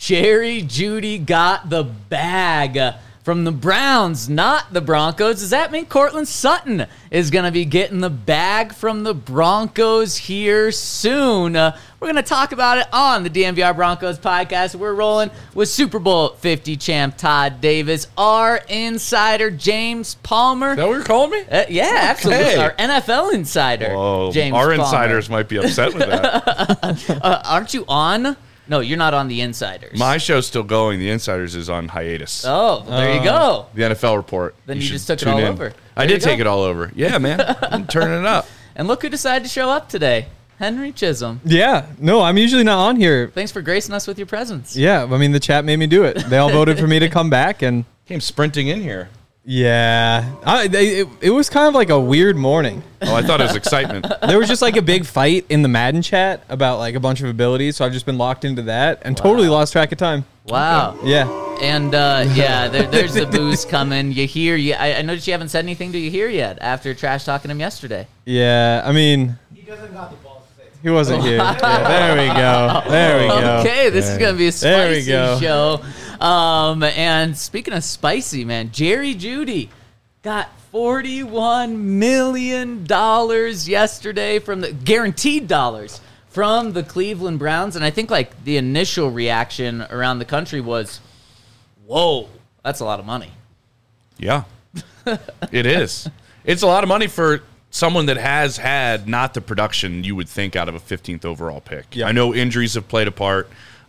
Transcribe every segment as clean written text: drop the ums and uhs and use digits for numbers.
Jerry Jeudy got the bag from the Browns, not the Broncos. Does that mean Courtland Sutton is going to be getting the bag from the Broncos here soon? We're going to talk about it on the DNVR Broncos podcast. We're rolling with Super Bowl 50 champ Todd Davis, our insider James Palmer. Is that what you're calling me? Yeah, absolutely. Our NFL insider, James Our Palmer. insiders might be upset with that. Aren't you on? No, you're not on the Insiders. My show's still going. The Insiders is on hiatus. Oh, there you go. The NFL report. Then you should just took it tune all in. over. I There did you take go. it all over. Yeah, man. I'm turning it up. And look who decided to show up today. Henry Chisholm. Yeah. No, I'm usually not on here. Thanks for gracing us with your presence. Yeah. I mean, the chat made me do it. They all voted for me to come back. And Came sprinting in here. yeah, it was kind of like a weird morning. Oh, I thought it was excitement. There was just like a big fight in the Madden chat about like a bunch of abilities. So I've just been locked into that and totally lost track of time. Wow. Yeah. And, there's the booze coming. You hear, I noticed you haven't said anything to you here yet after trash talking him yesterday. Yeah. I mean, He doesn't got the balls to say it. he wasn't here. Yeah, there we go. There we go. Okay, this is going to be a There we spicy go. show. And speaking of spicy, man, Jerry Jeudy got $41 million yesterday from the guaranteed dollars from the Cleveland Browns. And I think like the initial reaction around the country was, whoa, that's a lot of money. Yeah, it is. It's a lot of money for someone that has had not the production you would think out of a 15th overall pick. Yeah. I know injuries have played a part.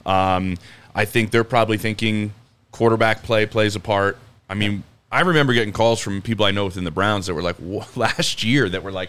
I think they're probably thinking quarterback play plays a part. I mean, I remember getting calls from people I know within the Browns that were like, last year, that were like,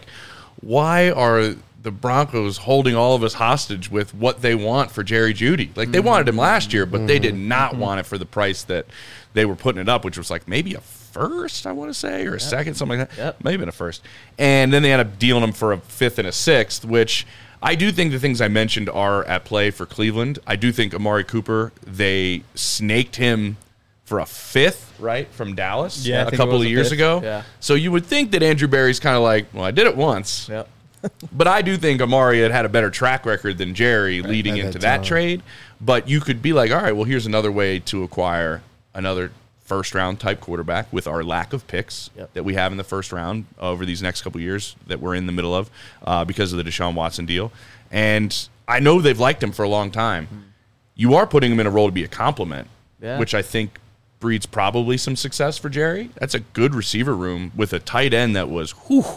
why are the Broncos holding all of us hostage with what they want for Jerry Jeudy? Like, they wanted him last year, but they did not want it for the price that they were putting it up, which was like maybe a first, I want to say, or a second, something like that. Yep. Maybe been a first. And then they ended up dealing him for a fifth and a sixth, which I do think the things I mentioned are at play for Cleveland. I do think Amari Cooper, they snaked him for a fifth, right, from Dallas Yeah, I a think it couple was of a years fifth. ago. Yeah. So you would think that Andrew Berry's kind of like, well, I did it once. Yep. But I do think Amari had a better track record than Jerry leading at into that that time. trade. But you could be like, all right, well, here's another way to acquire another first-round type quarterback with our lack of picks that we have in the first round over these next couple of years that we're in the middle of because of the Deshaun Watson deal. And I know they've liked him for a long time. You are putting him in a role to be a compliment, which I think breeds probably some success for Jerry. That's a good receiver room with a tight end that was,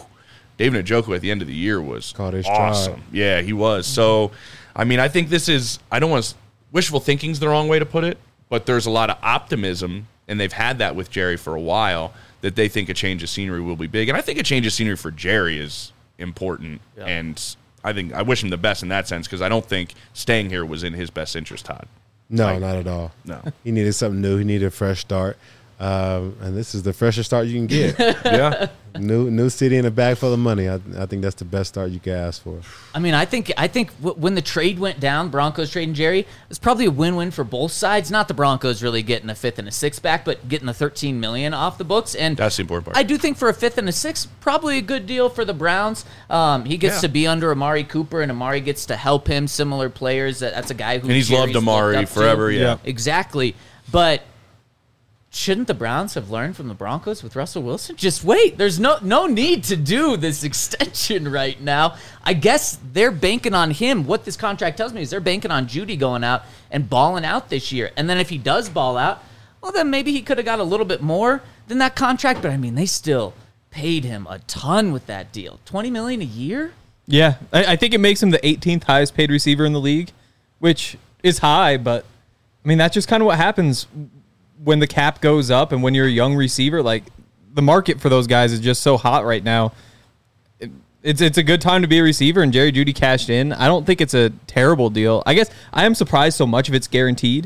David Njoku at the end of the year was Caught his awesome. stride. Yeah, he was. So, I mean, I think this is, I don't want to, wishful thinking's the wrong way to put it, but there's a lot of optimism, and they've had that with Jerry for a while, that they think a change of scenery will be big. And I think a change of scenery for Jerry is important, and I wish him the best in that sense, because I don't think staying here was in his best interest, Todd. No, not at all. No. He needed something new. He needed a fresh start. And this is the freshest start you can get. Yeah. New city and a bag full of money. I think that's the best start you could ask for. I mean, I think when the trade went down, Broncos trading Jerry, it's probably a win-win for both sides. Not the Broncos really getting a fifth and a sixth back, but getting the $13 million off the books. And That's the important part. I do think for a fifth and a sixth, probably a good deal for the Browns. He gets to be under Amari Cooper, and Amari gets to help him. Similar players. That's a guy who And he's Jerry's loved Amari looked up to. forever, yeah. Exactly. But shouldn't the Browns have learned from the Broncos with Russell Wilson? Just wait. There's no need to do this extension right now. I guess they're banking on him. What this contract tells me is they're banking on Jeudy going out and balling out this year. And then if he does ball out, well, then maybe he could have got a little bit more than that contract. But, I mean, they still paid him a ton with that deal. $20 million a year? Yeah. I think it makes him the 18th highest paid receiver in the league, which is high, but I mean, that's just kind of what happens when the cap goes up and when you're a young receiver. Like, the market for those guys is just so hot right now. It's a good time to be a receiver, and Jerry Jeudy cashed in. I don't think it's a terrible deal. I guess I am surprised so much of it's guaranteed.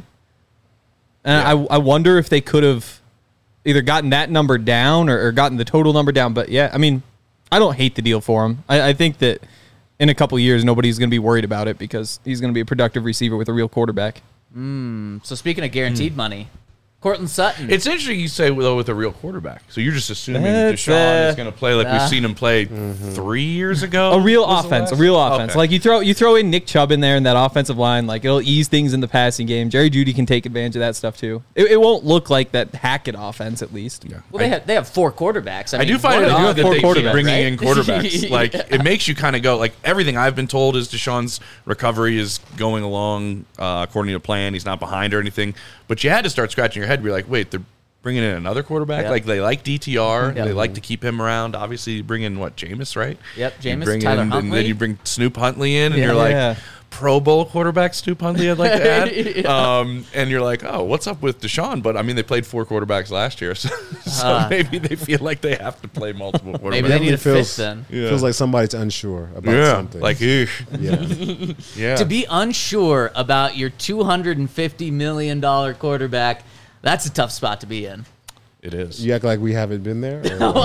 And I wonder if they could have either gotten that number down or gotten the total number down. But, yeah, I mean, I don't hate the deal for him. I think that in a couple of years, nobody's going to be worried about it because he's going to be a productive receiver with a real quarterback. So speaking of guaranteed money, Cortland Sutton. It's interesting you say, though, with a real quarterback. So you're just assuming That's, Deshaun is going to play like we've seen him play 3 years ago? A real was the offense. last? A real offense. Okay. Like you throw in Nick Chubb in there in that offensive line. Like it'll ease things in the passing game. Jerry Jeudy can take advantage of that stuff too. It won't look like that Hackett offense at least. Yeah. Well, they have 4 quarterbacks. I do find it one of odd them- that they keep quarterbacks, bringing right? in quarterbacks. Like, Yeah. it makes you kind of go, like, everything I've been told is Deshaun's recovery is going along according to plan. He's not behind or anything. But you had to start scratching your head. You're like, wait, they're bringing in another quarterback? Yeah. Like, they like DTR. Yeah. They like to keep him around. Obviously, you bring in, what, Jameis, right? Yep, You Jameis, bring Tyler in, and Huntley. then you bring Snoop Huntley in, and Yeah. you're like, Yeah. Pro Bowl quarterback Snoop Huntley, I'd like to add. Yeah. And you're like, oh, what's up with Deshaun? But, I mean, they played 4 quarterbacks last year, so maybe they feel like they have to play multiple quarterbacks. Maybe they need a Definitely fifth then. Yeah. Feels like somebody's unsure about Yeah, something. like, eesh. yeah. Yeah. To be unsure about your $250 million quarterback, that's a tough spot to be in. It is. You act like we haven't been there? Or-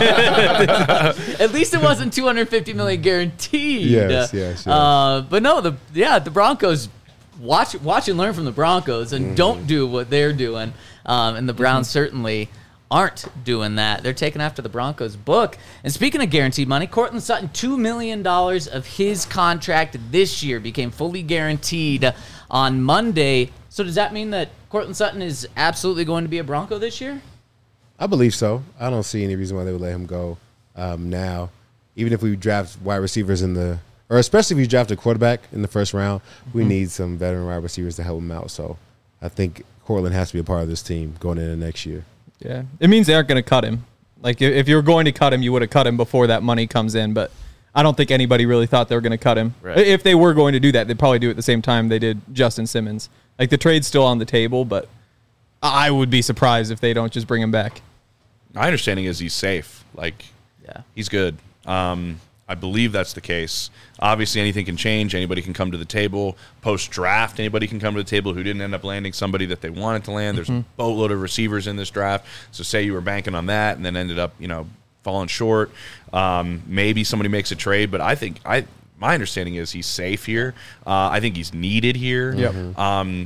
At least it wasn't $250 million guaranteed. Yes. But no, the Broncos watch and learn from the Broncos and don't do what they're doing. And the Browns certainly aren't doing that. They're taking after the Broncos book. And speaking of guaranteed money, Cortland Sutton, $2 million of his contract this year became fully guaranteed on Monday. So does that mean that Cortland Sutton is absolutely going to be a Bronco this year? I believe so. I don't see any reason why they would let him go now. Even if we draft wide receivers or especially if you draft a quarterback in the first round, we need some veteran wide receivers to help him out. So I think Cortland has to be a part of this team going into next year. Yeah, it means they aren't going to cut him. Like if you were going to cut him, you would have cut him before that money comes in. But I don't think anybody really thought they were going to cut him. Right. If they were going to do that, they'd probably do it at the same time they did Justin Simmons. Like the trade's still on the table, but I would be surprised if they don't just bring him back. My understanding is he's safe. Like, Yeah. he's good. I believe that's the case. Obviously, anything can change. Anybody can come to the table. Post-draft, anybody can come to the table who didn't end up landing somebody that they wanted to land. There's a boatload of receivers in this draft. So say you were banking on that and then ended up, falling short. Maybe somebody makes a trade, but my understanding is he's safe here. I think he's needed here. Yep.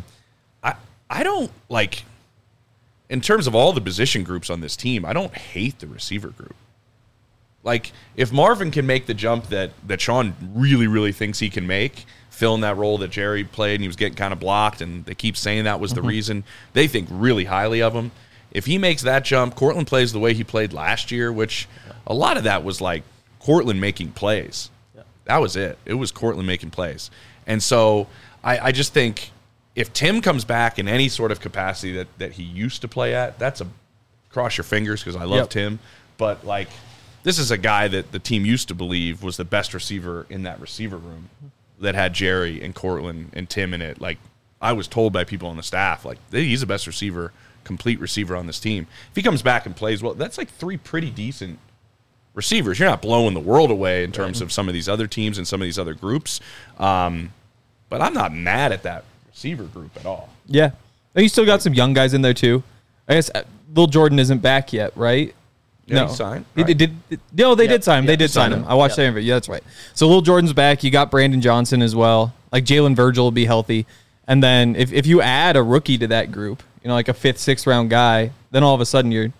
I don't, like, in terms of all the position groups on this team, I don't hate the receiver group. Like, if Marvin can make the jump that Sean really, really thinks he can make, fill in that role that Jerry played and he was getting kind of blocked, and they keep saying that was the reason, they think really highly of him. If he makes that jump, Cortland plays the way he played last year, which a lot of that was like Cortland making plays. That was it. It was Cortland making plays. And so I just think if Tim comes back in any sort of capacity that he used to play at, that's a cross your fingers because I love Tim. But, like, this is a guy that the team used to believe was the best receiver in that receiver room that had Jerry and Cortland and Tim in it. Like, I was told by people on the staff, like, he's the best receiver, complete receiver on this team. If he comes back and plays well, that's like 3 pretty decent receivers. You're not blowing the world away in terms of some of these other teams and some of these other groups. But I'm not mad at that receiver group at all. Yeah. And you still got some young guys in there, too. I guess Lil Jordan isn't back yet, right? Yeah, No. he signed. They right? did sign him. They did sign him. I watched that interview. Yeah, that's right. So Lil Jordan's back. You got Brandon Johnson as well. Like Jalen Virgil will be healthy. And then if you add a rookie to that group, like a 5th, 6th round guy, then all of a sudden you've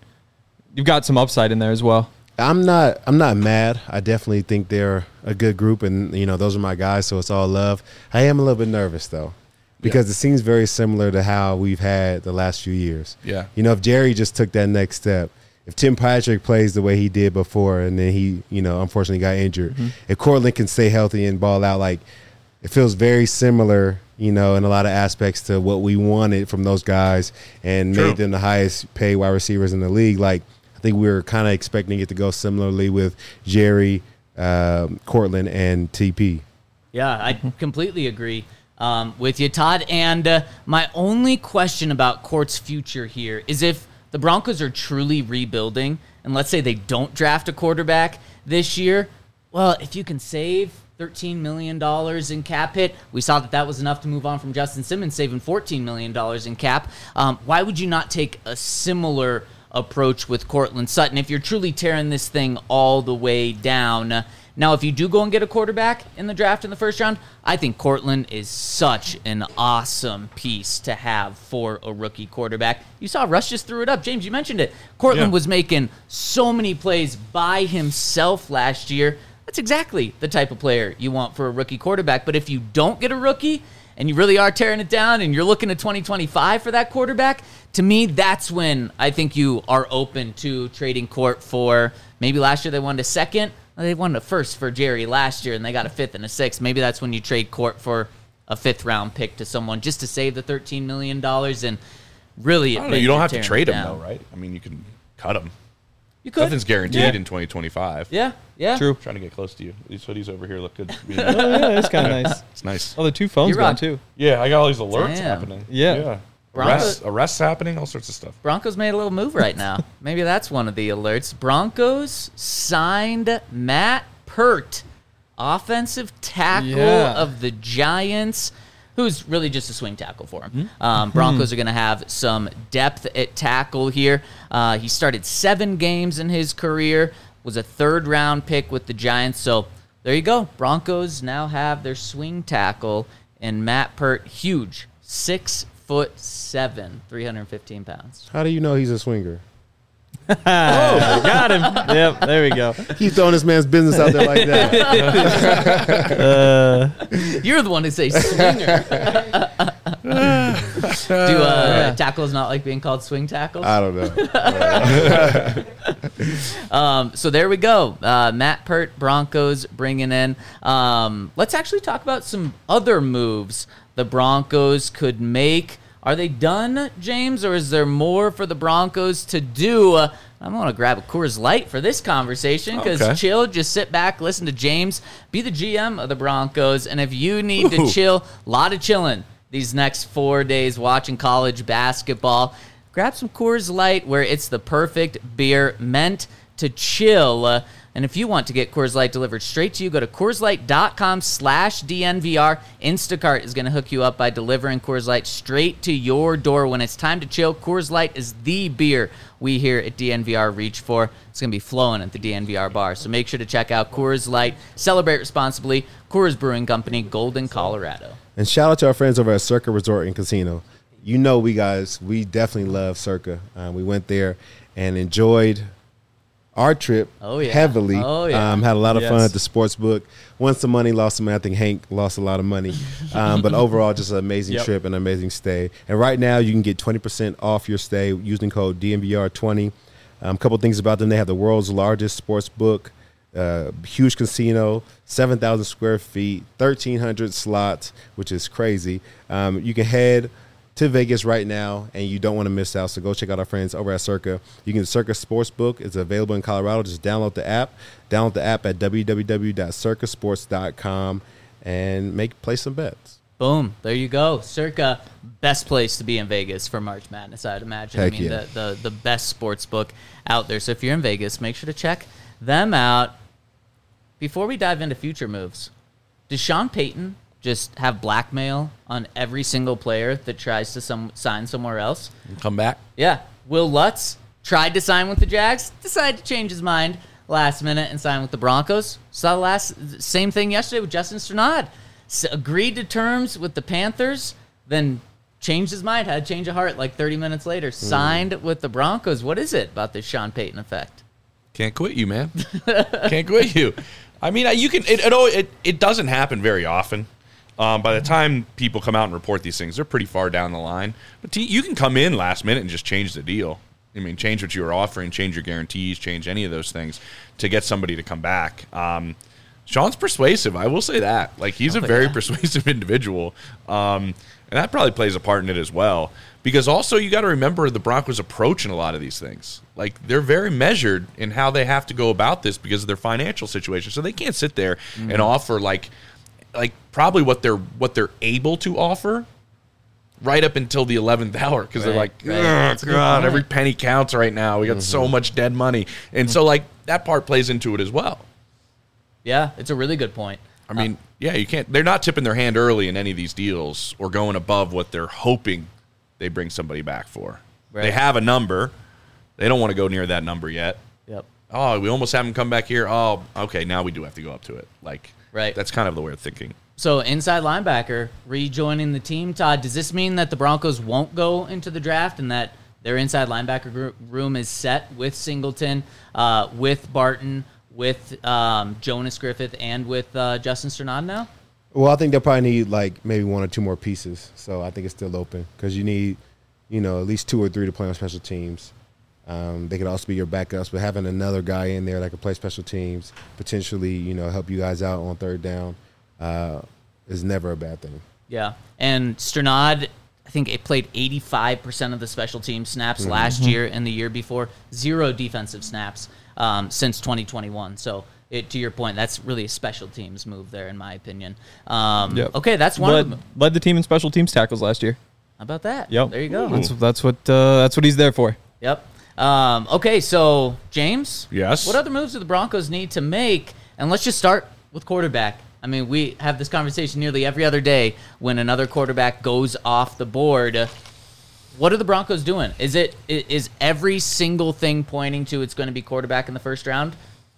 got some upside in there as well. I'm not mad. I definitely think they're a good group, and those are my guys, so it's all love. I am a little bit nervous though, because it seems very similar to how we've had the last few years. Yeah. If Jerry just took that next step, if Tim Patrick plays the way he did before, and then he, unfortunately got injured, if Cortland can stay healthy and ball out, like, it feels very similar, in a lot of aspects to what we wanted from those guys and True. made them the highest paid wide receivers in the league. Like, I think we were kind of expecting it to go similarly with Jerry, Cortland, and TP. Yeah, I completely agree with you, Todd. And my only question about Cort's future here is if the Broncos are truly rebuilding, and let's say they don't draft a quarterback this year, well, if you can save $13 million in cap hit, we saw that was enough to move on from Justin Simmons, saving $14 million in cap. Why would you not take a similar approach with Cortland Sutton if you're truly tearing this thing all the way down Now, if you do go and get a quarterback in the draft in the first round, I think Cortland is such an awesome piece to have for a rookie quarterback. You saw Russ just threw it up. James, you mentioned it. Cortland was making so many plays by himself last year. That's exactly the type of player you want for a rookie quarterback. But if you don't get a rookie and you really are tearing it down and you're looking at 2025 for that quarterback, to me, that's when I think you are open to trading Court for, maybe last year they wanted a second. They won a first for Jerry last year, and they got a fifth and a sixth. Maybe that's when you trade Court for a fifth-round pick to someone just to save the $13 million and really... I don't know, you don't have to trade him, though, right? I mean, you can cut him. You could. Nothing's guaranteed in 2025. Yeah. True. Trying to get close to you. These hoodies over here look good. Oh, yeah, it's kind of nice. It's nice. Oh, the 2 phones You're gone, on. too. Yeah, I got all these alerts Damn. happening. Yeah. Arrests happening, all sorts of stuff. Broncos made a little move right now. Maybe that's one of the alerts. Broncos signed Matt Pert, offensive tackle of the Giants, who's really just a swing tackle for him. Broncos are going to have some depth at tackle here. He started 7 games in his career, was a third-round pick with the Giants. So there you go. Broncos now have their swing tackle, and Matt Pert, huge, 6'7", 315 pounds. How do you know he's a swinger? Got him. Yep, there we go. He's throwing this man's business out there like that. You're the one to say swinger. Do tackles not like being called swing tackles? I don't know. So there we go. Matt Pert, Broncos bringing in. Let's actually talk about some other moves the Broncos could make. Are they done, James, or is there more for the Broncos to do? I'm going to grab a Coors Light for this conversation because chill, just sit back, listen to James, be the GM of the Broncos, and if you need to chill, a lot of chilling these next 4 days watching college basketball, grab some Coors Light where it's the perfect beer meant to chill. And if you want to get Coors Light delivered straight to you, go to CoorsLight.com/DNVR. Instacart is going to hook you up by delivering Coors Light straight to your door. When it's time to chill, Coors Light is the beer we here at DNVR reach for. It's going to be flowing at the DNVR bar. So make sure to check out Coors Light. Celebrate responsibly. Coors Brewing Company, Golden, Colorado. And shout out to our friends over at Circa Resort and Casino. You know we definitely love Circa. We went there and enjoyed our trip heavily. Had a lot of fun at the sports book. Won some money, lost some money. I think Hank lost a lot of money. But overall, just an amazing trip and an amazing stay. And right now, you can get 20% off your stay using code DNVR20. A couple things about them. They have the world's largest sports book, huge casino, 7,000 square feet, 1,300 slots, which is crazy. You can head to Vegas right now, and you don't want to miss out. So go check out our friends over at Circa. You can Circa Sportsbook. It's available in Colorado. Just download the app. Download the app at www.circasports.com and play some bets. Boom. There you go. Circa, best place to be in Vegas for March Madness, I'd imagine. Heck the best sports book out there. So if you're in Vegas, make sure to check them out. Before we dive into future moves, does Sean Payton just have blackmail on every single player that tries to sign somewhere else? Come back. Yeah. Will Lutz tried to sign with the Jags, decided to change his mind last minute and sign with the Broncos. Saw the same thing yesterday with Justin Strnad. Agreed to terms with the Panthers, then changed his mind, had a change of heart like 30 minutes later, signed with the Broncos. What is it about this Sean Payton effect? Can't quit you, man. Can't quit you. I mean, you can. It doesn't happen very often. By the time people come out and report these things, they're pretty far down the line. But you can come in last minute and just change the deal. I mean, change what you were offering, change your guarantees, change any of those things to get somebody to come back. Sean's persuasive. I will say that. Like, he's a very persuasive individual. And that probably plays a part in it as well. Because also you got to remember the Broncos' approach in a lot of these things. Like, they're very measured in how they have to go about this because of their financial situation. So they can't sit there and offer like probably what they're able to offer right up until the 11th hour because they're like, oh, God, every penny counts right now. We got so much dead money. And so, like, that part plays into it as well. Yeah, it's a really good point. I mean, you can't – they're not tipping their hand early in any of these deals or going above what they're hoping they bring somebody back for. Right. They have a number. They don't want to go near that number yet. Yep. oh, we almost have him come back here. Oh, okay, now we do have to go up to it. Like, Right. That's kind of the way of thinking. So inside linebacker rejoining the team. Todd, does this mean that the Broncos won't go into the draft and that their inside linebacker room is set with Singleton, with Barton, with Jonas Griffith, and with Justin Strnad now? Well, I think they'll probably need like maybe one or two more pieces. So I think it's still open because you need, at least 2 or 3 to play on special teams. They could also be your backups, but having another guy in there that could play special teams, potentially, help you guys out on third down, is never a bad thing. Yeah, and Strnad, I think it played 85% of the special team snaps last year and the year before. 0 defensive snaps since 2021. So to your point, that's really a special teams move there, in my opinion. Yep. Okay, that's one of them. Led the team in special teams tackles last year. How about that? Yep. There you go. That's what he's there for. Yep. Okay, so James. Yes? What other moves do the Broncos need to make? And let's just start with quarterback. I mean, we have this conversation nearly every other day when another quarterback goes off the board. What are the Broncos doing? Is every single thing pointing to it's going to be quarterback in the first round?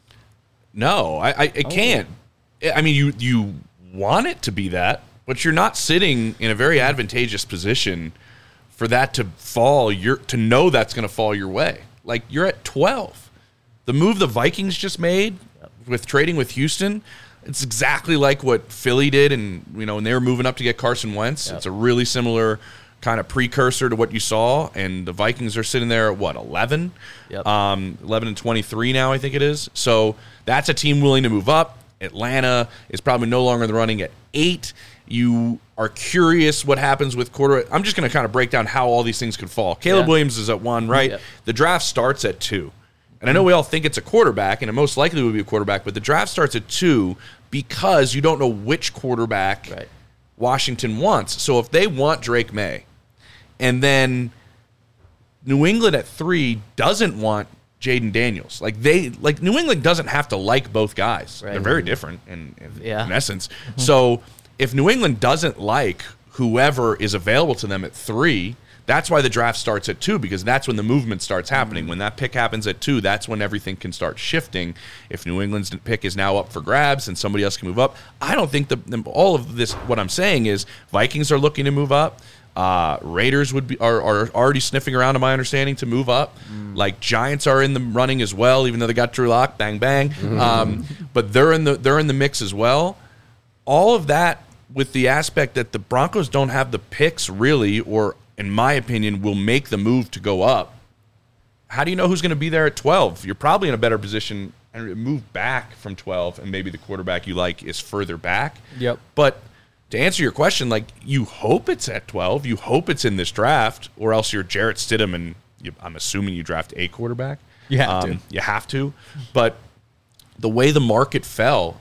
No, I can't. I mean, you want it to be that, but you're not sitting in a very advantageous position for that to fall. To know that's going to fall your way. Like, you're at 12. The move the Vikings just made with trading with Houston, it's exactly like what Philly did, and when they were moving up to get Carson Wentz. Yep. It's a really similar kind of precursor to what you saw, and the Vikings are sitting there at 11? Yep. 11-23 now, I think it is. So that's a team willing to move up. Atlanta is probably no longer in the running at 8. You are curious what happens with quarterback. I'm just going to kind of break down how all these things could fall. Caleb Williams is at 1, right? Yep. The draft starts at 2. And I know we all think it's a quarterback, and it most likely would be a quarterback, but the draft starts at 2 because you don't know which quarterback Washington wants. So if they want Drake May, and then New England at 3 doesn't want Jaden Daniels. New England doesn't have to like both guys. Right. They're very different in essence. Mm-hmm. So if New England doesn't like whoever is available to them at 3, that's why the draft starts at 2, because that's when the movement starts happening. Mm-hmm. When that pick happens at 2, that's when everything can start shifting. If New England's pick is now up for grabs and somebody else can move up, I don't think all of this, what I'm saying is Vikings are looking to move up. Raiders are already sniffing around, to my understanding, to move up. Like, Giants are in the running as well, even though they got Drew Lock, bang bang. But they're in the mix as well. All of that with the aspect that the Broncos don't have the picks really, or in my opinion, will make the move to go up. How do you know who's going to be there at 12? You're probably in a better position and move back from 12, and maybe the quarterback you like is further back. Yep. But to answer your question, you hope it's at 12. You hope it's in this draft, or else you're Jarrett Stidham, and I'm assuming you draft a quarterback. You have to. You have to. But the way the market fell,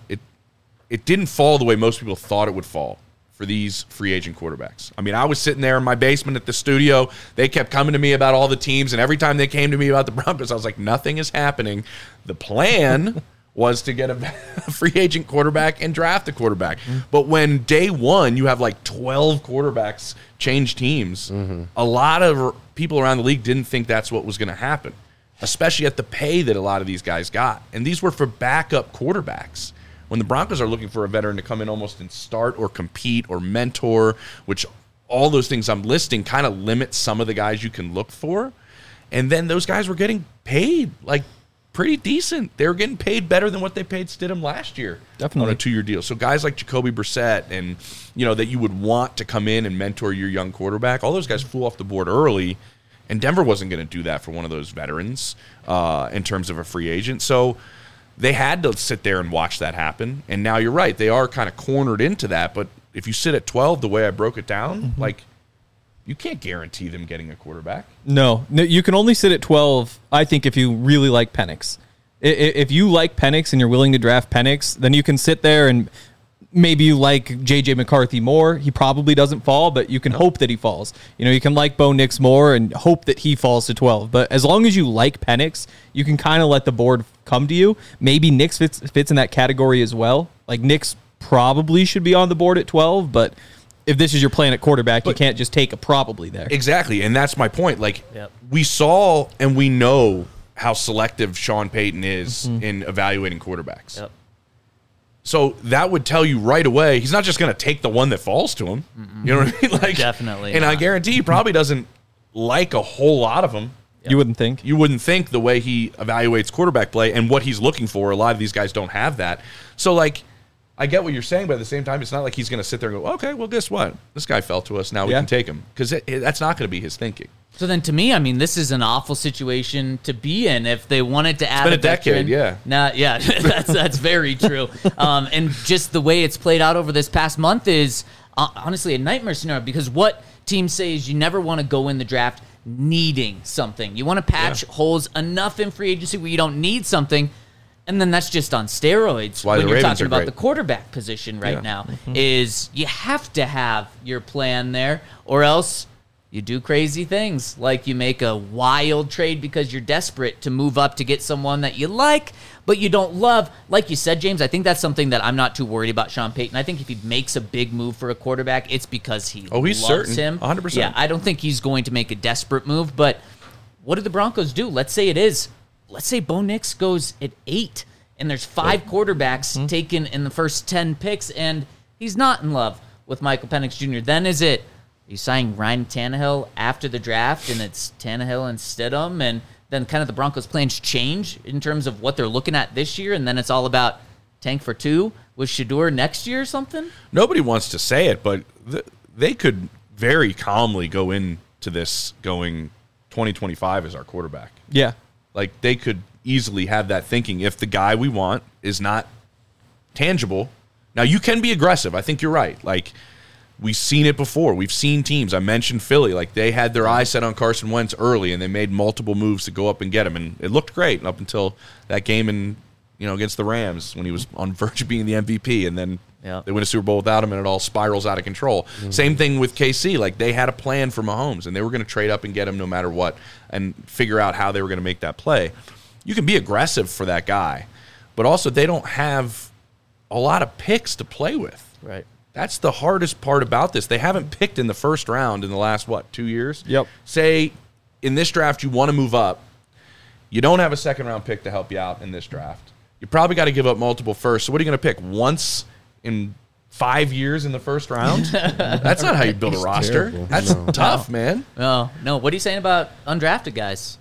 it didn't fall the way most people thought it would fall for these free agent quarterbacks. I mean, I was sitting there in my basement at the studio. They kept coming to me about all the teams, and every time they came to me about the Broncos, I was like, nothing is happening. The plan was to get a free agent quarterback and draft a quarterback. But when day one, you have 12 quarterbacks change teams, a lot of people around the league didn't think that's what was going to happen, especially at the pay that a lot of these guys got. And these were for backup quarterbacks. When the Broncos are looking for a veteran to come in almost and start or compete or mentor, which all those things I'm listing kind of limit some of the guys you can look for. And then those guys were getting paid pretty decent. They were getting paid better than what they paid Stidham last year. Definitely. On a 2-year deal. So guys like Jacoby Brissett and, that you would want to come in and mentor your young quarterback, all those guys flew off the board early, and Denver wasn't going to do that for one of those veterans in terms of a free agent. So they had to sit there and watch that happen. And now you're right. They are kind of cornered into that. But if you sit at 12, the way I broke it down, you can't guarantee them getting a quarterback. No, you can only sit at 12, I think, if you really like Penix. If you like Penix and you're willing to draft Penix, then you can sit there and maybe you like J.J. McCarthy more. He probably doesn't fall, but you can hope that he falls. You can like Bo Nix more and hope that he falls to 12. But as long as you like Penix, you can kind of let the board come to you. Maybe Nix fits in that category as well. Nix probably should be on the board at 12, but if this is your plan at quarterback, you can't just take a probably there. Exactly, and that's my point. We saw and we know how selective Sean Payton is in evaluating quarterbacks. Yep. So that would tell you right away he's not just going to take the one that falls to him. You know what I mean? Like, Definitely And not. I guarantee he probably doesn't like a whole lot of them. You wouldn't think. You wouldn't think the way he evaluates quarterback play and what he's looking for. A lot of these guys don't have that. So, like, I get what you're saying, but at the same time, it's not like he's going to sit there and go, okay, well, guess what? This guy fell to us. Now we can take him. Because that's not going to be his thinking. So then, to me, I mean, this is an awful situation to be in if they wanted to add been a a decade, veteran. Yeah, that's very true. And just the way it's played out over this past month is honestly a nightmare scenario because what teams say is you never want to go in the draft needing something. You want to patch holes enough in free agency where you don't need something, and then that's just on steroids why when the you're Ravens talking are about great. the quarterback position right now. Is you have to have your plan there, or else you do crazy things like you make a wild trade because you're desperate to move up to get someone that you like, but you don't love. Like you said, James, I think that's something that I'm not too worried about Sean Payton. I think if he makes a big move for a quarterback, it's because he He's loves certain. him. 100%. Yeah, I don't think he's going to make a desperate move, but what do the Broncos do? Let's say Bo Nix goes at 8, and there's 5 quarterbacks taken in the first 10 picks, and he's not in love with Michael Penix Jr. Then is it, you sign Ryan Tannehill after the draft, and it's Tannehill and Stidham, and then kind of the Broncos' plans change in terms of what they're looking at this year, and then it's all about tank for 2 with Shedeur next year or something? Nobody wants to say it, but they could very calmly go into this going 2025 as our quarterback. Yeah. Like, they could easily have that thinking if the guy we want is not tangible. Now, you can be aggressive. I think you're right. Like, we've seen it before. We've seen teams. I mentioned Philly. Like, they had their eyes set on Carson Wentz early, and they made multiple moves to go up and get him. And it looked great up until that game against the Rams when he was on verge of being the MVP. And then they win a Super Bowl without him, and it all spirals out of control. Same thing with KC. Like, they had a plan for Mahomes, and they were going to trade up and get him no matter what and figure out how they were going to make that play. You can be aggressive for that guy, but also they don't have a lot of picks to play with. Right. That's the hardest part about this. They haven't picked in the first round in the last, 2 years? Yep. Say, in this draft, you want to move up. You don't have a second-round pick to help you out in this draft. You probably got to give up multiple firsts. So what are you going to pick? Once in 5 years in the first round? That's not how you build a roster. terrible. That's No. tough, man. No. What are you saying about undrafted guys?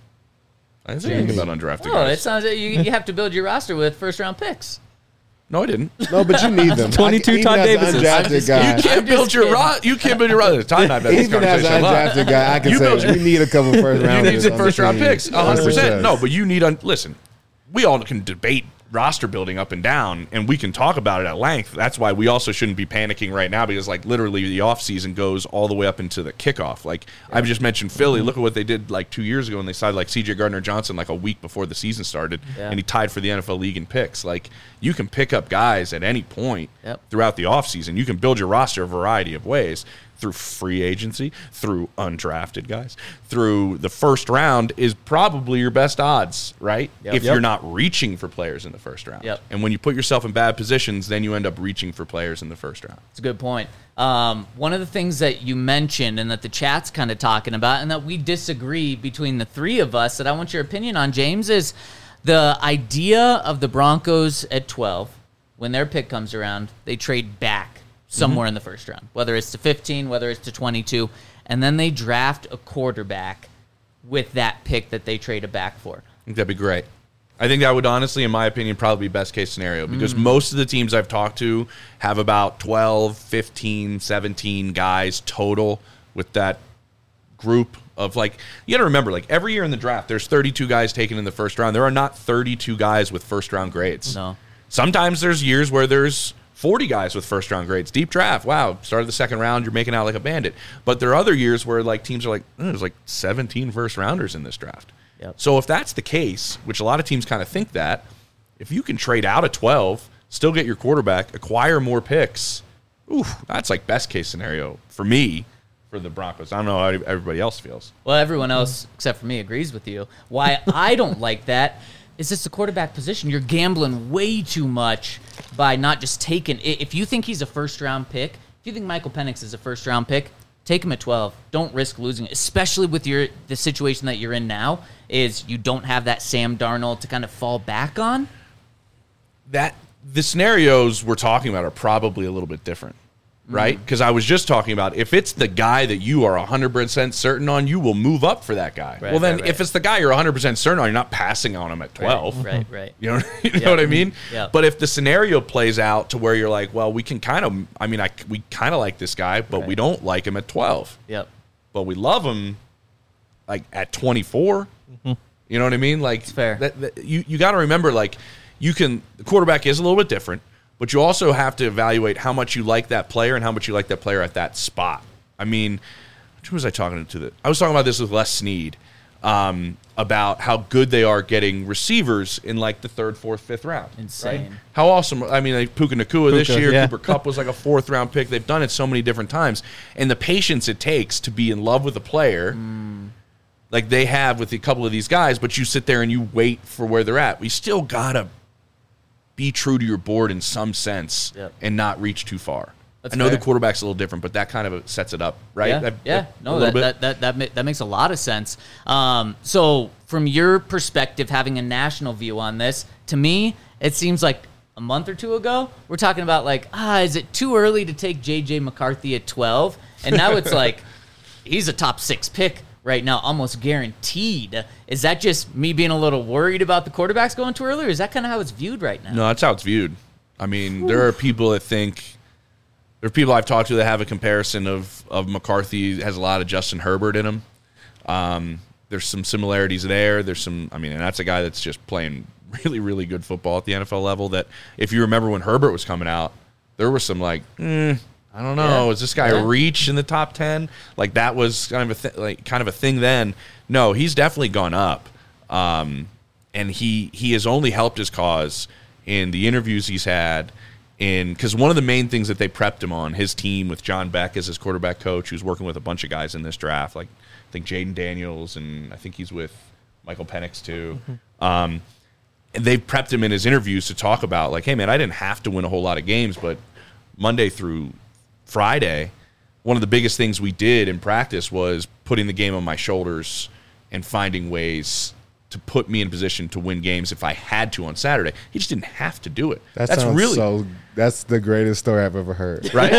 I didn't say anything about undrafted Oh, guys. it sounds like you have to build your roster with first-round picks. No, I didn't. No, but you need them. 22 Even Todd as an Davises. undrafted guy. You can't build your roster. You can't build your roster. Time and I've had this Even as conversation an a lot. undrafted guy, I can You build say your- we need a couple first You rounders. need some on the first round team. picks, 100%. Yes. No, but you need listen. We all can debate roster building up and down, and we can talk about it at length. That's why we also shouldn't be panicking right now because, like, literally the offseason goes all the way up into the kickoff. Like, I've just mentioned Philly. Look at what they did, like, 2 years ago when they signed, like, C.J. Gardner-Johnson, like, a week before the season started, and he tied for the NFL league in picks. Like, you can pick up guys at any point throughout the offseason. You can build your roster a variety of ways. Through free agency, through undrafted guys, through the first round is probably your best odds, right? If you're not reaching for players in the first round. And when you put yourself in bad positions, then you end up reaching for players in the first round. It's a good point. One of the things that you mentioned and that the chat's kind of talking about and that we disagree between the three of us that I want your opinion on, James, is the idea of the Broncos at 12, when their pick comes around, they trade back somewhere in the first round, whether it's to 15, whether it's to 22, and then they draft a quarterback with that pick that they traded back for. I think that'd be great. I think that would honestly, in my opinion, probably be best case scenario because most of the teams I've talked to have about 12, 15, 17 guys total with that group of, like, you got to remember, like, every year in the draft, there's 32 guys taken in the first round. There are not 32 guys with first round grades. No. Sometimes there's years where there's 40 guys with first round grades. Deep draft. Wow. Started the second round. You're making out like a bandit. But there are other years where, like, teams are like, there's like 17 first rounders in this draft. So if that's the case, which a lot of teams kind of think that, if you can trade out of 12, still get your quarterback, acquire more picks, that's like best case scenario for me for the Broncos. I don't know how everybody else feels. Well, everyone else except for me agrees with you. Why I don't like that is this the quarterback position. You're gambling way too much by not just taking – if you think he's a first-round pick, if you think Michael Penix is a first-round pick, take him at 12. Don't risk losing it, especially with the situation that you're in now. Is you don't have that Sam Darnold to kind of fall back on. That the scenarios we're talking about are probably a little bit different, right? Because I was just talking about if it's the guy that you are 100% certain on, you will move up for that guy. Right, well, then right. if it's the guy you're 100% certain on, you're not passing on him at 12. Right. You know what I mean? Yeah. But if the scenario plays out to where you're like, well, we can kind of, we kind of like this guy, but we don't like him at 12. Yep. But we love him like at 24. You know what I mean? Like, it's fair. You got to remember, like, the quarterback is a little bit different, but you also have to evaluate how much you like that player and how much you like that player at that spot. I mean, who was I talking to? I was talking about this with Les Snead about how good they are getting receivers in like the 3rd, 4th, 5th round. Insane. Right? How awesome. I mean, like Puka Nacua this year, yeah. Cooper Kupp was like a 4th round pick. They've done it so many different times. And the patience it takes to be in love with a player like they have with a couple of these guys, but you sit there and you wait for where they're at. We still got to be true to your board in some sense and not reach too far. That's I know fair. the quarterback's a little different, but that kind of sets it up, right? That makes a lot of sense. So from your perspective, having a national view on this, to me, it seems like a month or two ago, we're talking about like, is it too early to take J.J. McCarthy at 12? And now it's like, he's a top 6 pick right now, almost guaranteed. Is that just me being a little worried about the quarterbacks going too early, or is that kind of how it's viewed right now? No, that's how it's viewed. I mean, there are people that think, there are people I've talked to that have a comparison of McCarthy has a lot of Justin Herbert in him. There's some similarities there. There's some, and that's a guy that's just playing really, really good football at the NFL level that if you remember when Herbert was coming out, there was some like, I don't know. Yeah. Is this guy a reach in the top 10? Like that was kind of a thing then. No, he's definitely gone up, and he has only helped his cause in the interviews he's had. Because one of the main things that they prepped him on, his team with John Beck as his quarterback coach, who's working with a bunch of guys in this draft, like I think Jaden Daniels, and I think he's with Michael Penix too. And they prepped him in his interviews to talk about like, hey man, I didn't have to win a whole lot of games, but Monday through Friday, one of the biggest things we did in practice was putting the game on my shoulders and finding ways to put me in position to win games if I had to on Saturday. He just didn't have to do it. That's the greatest story I've ever heard. Right?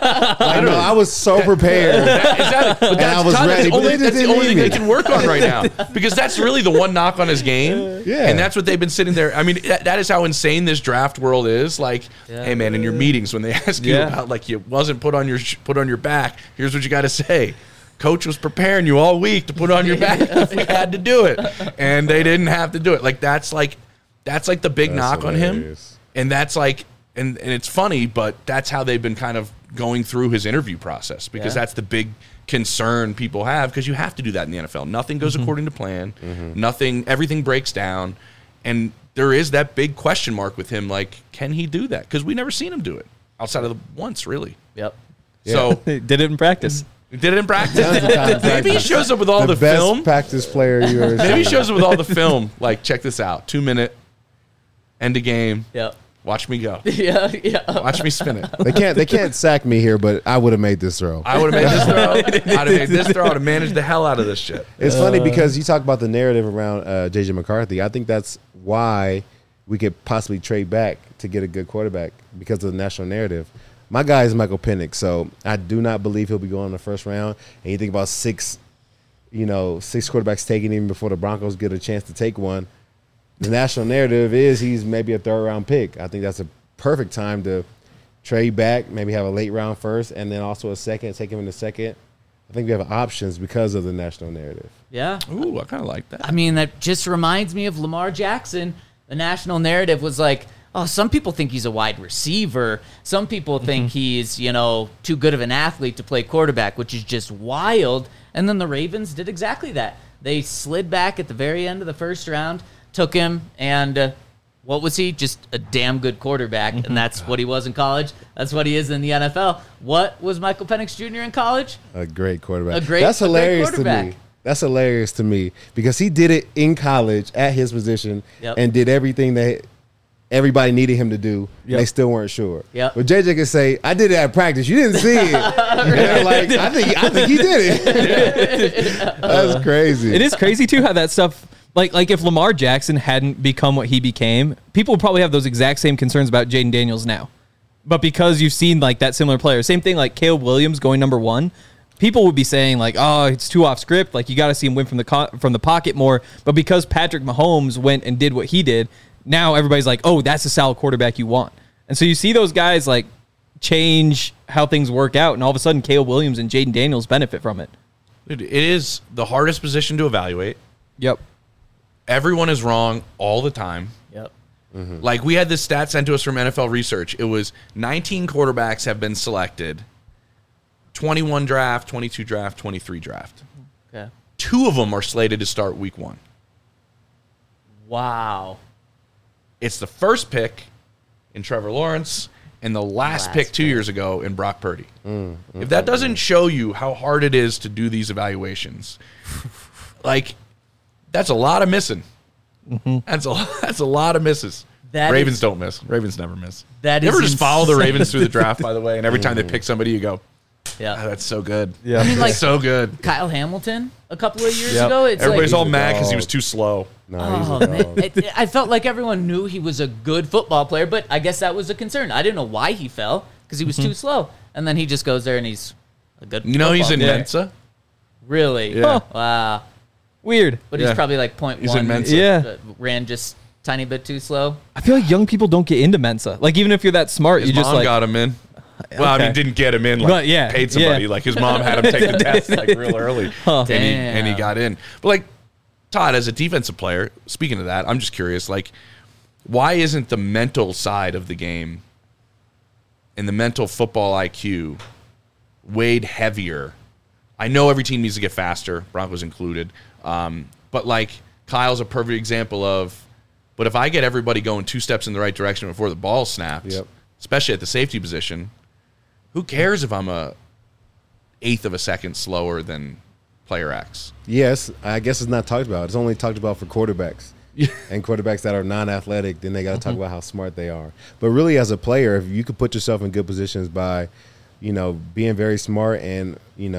I was so prepared. But I was ready, but they that's the didn't only need thing me. they can work on right now. Because that's really the one knock on his game. Yeah. And that's what they've been sitting there. I mean, that is how insane this draft world is. Like, hey, man, in your meetings when they ask you about, like, you wasn't put on your back, here's what you got to say. Coach was preparing you all week to put on your back if we had to do it. And they didn't have to do it. Like, that's like the big knock on him. And that's like, and it's funny, but that's how they've been kind of going through his interview process because that's the big concern people have because you have to do that in the NFL. Nothing goes according to plan. Everything breaks down. And there is that big question mark with him, like, can he do that? Because we never seen him do it outside of the once, really. Yep. So Did it in practice. He did it in practice. Maybe he shows up with all the best film. practice player you ever Maybe he seen. shows up with all the film. Like, check this out. 2-minute, end of game. Yep. Watch me go. Yeah. Watch me spin it. They can't sack me here, but I would have made this throw. I would have made this throw. I'd have made this throw. I'd have managed the hell out of this shit. It's funny because you talk about the narrative around J.J. McCarthy. I think that's why we could possibly trade back to get a good quarterback because of the national narrative. My guy is Michael Penix, so I do not believe he'll be going in the first round. And you think about six quarterbacks taking him before the Broncos get a chance to take one. The national narrative is he's maybe a 3rd round pick. I think that's a perfect time to trade back, maybe have a late round first, and then also a second, take him in the second. I think we have options because of the national narrative. Yeah. Ooh, I kind of like that. I mean, that just reminds me of Lamar Jackson. The national narrative was like, oh, some people think he's a wide receiver. Some people think he's, too good of an athlete to play quarterback, which is just wild. And then the Ravens did exactly that. They slid back at the very end of the first round, took him, and what was he? Just a damn good quarterback, and that's what he was in college. That's what he is in the NFL. What was Michael Penix Jr. in college? A great quarterback. That's hilarious to quarterback. me. That's hilarious to me because he did it in college at his position and did everything that everybody needed him to do. Yep. They still weren't sure. Yep. But JJ can say, I did it at practice. You didn't see it. And like, I think he did it. That's crazy. It is crazy too how that stuff like if Lamar Jackson hadn't become what he became, people would probably have those exact same concerns about Jaden Daniels now. But because you've seen like that similar player, same thing like Caleb Williams going number 1, people would be saying like, oh, it's too off script. Like you got to see him win from the pocket more. But because Patrick Mahomes went and did what he did, now everybody's like, oh, that's a solid quarterback you want. And so you see those guys like change how things work out, and all of a sudden Caleb Williams and Jaden Daniels benefit from it. It is the hardest position to evaluate. Yep. Everyone is wrong all the time. Yep. Like we had this stat sent to us from NFL Research. It was 19 quarterbacks have been selected. 21 draft, 22 draft, 23 draft. Okay. 2 of them are slated to start week 1. Wow. It's the first pick in Trevor Lawrence and the last pick 2 years ago in Brock Purdy. If that doesn't show you how hard it is to do these evaluations, like that's a lot of missing. That's a lot of misses. Ravens don't miss. Ravens never miss. That you is ever just follow the insane. Ravens through the draft, by the way, and every time they pick somebody, you go, Yeah. "Oh, that's so good. Yeah. I mean, like So good." Kyle Hamilton a couple of years Yep. ago. It's Everybody's like, all He's a mad because he dog. was too slow. No, oh he's a man, dog. I felt like everyone knew he was a good football player, but I guess that was a concern. I didn't know why he fell because he was too slow, and then he just goes there and he's a good. You know he's in football player. Mensa. Really? Yeah. Wow. Weird. But Yeah. he's probably like 0.1. He's in Mensa. Yeah. Ran just tiny bit too slow. I feel like young people don't get into Mensa. Like even if you're that smart, His you just mom like got him in. Well, I Okay. mean, didn't get him in. Like, But, yeah, paid somebody. yeah. Like his mom had him take the test like real early, and he Damn. got in. But like Todd, as a defensive player, speaking of that, I'm just curious. Like, why isn't the mental side of the game and the mental football IQ weighed heavier? I know every team needs to get faster, Broncos included. But like Kyle's a perfect example of. But if I get everybody going 2 steps in the right direction before the ball snapped, Yep. especially at the safety position, who cares if I'm a 1/8 of a second slower than player X? Yes, I guess it's not talked about. It's only talked about for quarterbacks. And quarterbacks that are non-athletic, then they got to talk about how smart they are. But really, as a player, if you could put yourself in good positions by, being very smart and,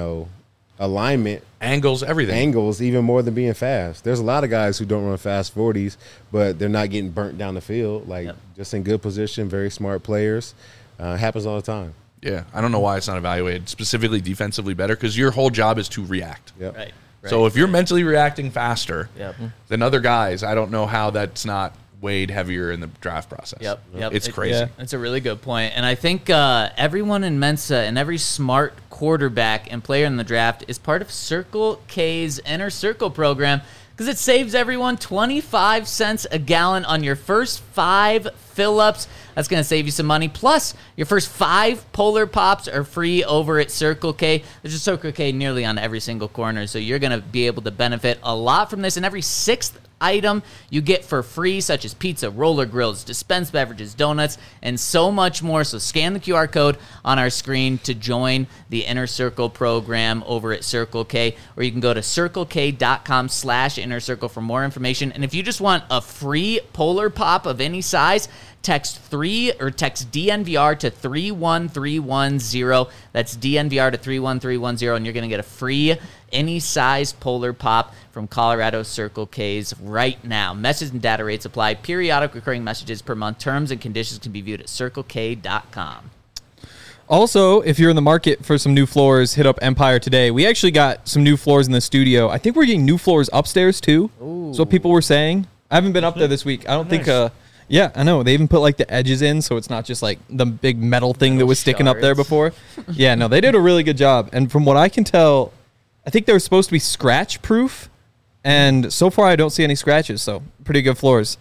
alignment, Angles, everything. angles, even more than being fast. There's a lot of guys who don't run fast 40s, but they're not getting burnt down the field. Like, just in good position, very smart players. Happens all the time. Yeah, I don't know why it's not evaluated specifically defensively better because your whole job is to react. Yep. Right. So if you're mentally reacting faster Yep. than other guys, I don't know how that's not weighed heavier in the draft process. Yep. It's crazy. Yeah. That's a really good point. And I think everyone in Mensa and every smart quarterback and player in the draft is part of Circle K's Inner Circle program because it saves everyone 25 cents a gallon on your first 5 fill-ups. That's going to save you some money. Plus, your first 5 Polar Pops are free over at Circle K. There's a Circle K nearly on every single corner, so you're going to be able to benefit a lot from this. And every 6th item you get for free, such as pizza, roller grills, dispensed beverages, donuts, and so much more. So scan the QR code on our screen to join the Inner Circle program over at Circle K, or you can go to circlek.com/Inner Circle for more information. And if you just want a free Polar Pop of any size, text DNVR to 31310. That's DNVR to 31310, and you're going to get a free any size Polar Pop from Colorado Circle K's right now. Message and data rates apply. Periodic recurring messages per month. Terms and conditions can be viewed at circlek.com. Also, if you're in the market for some new floors, hit up Empire today. We actually got some new floors in the studio. I think we're getting new floors upstairs too. That's what people were saying. I haven't been up there this week. I don't think yeah, I know. They even put like the edges in, so it's not just like the big metal thing that was sticking up there shards. before. Yeah, no, they did a really good job. And from what I can tell, I think they were supposed to be scratch proof. And so far, I don't see any scratches, so pretty good floors.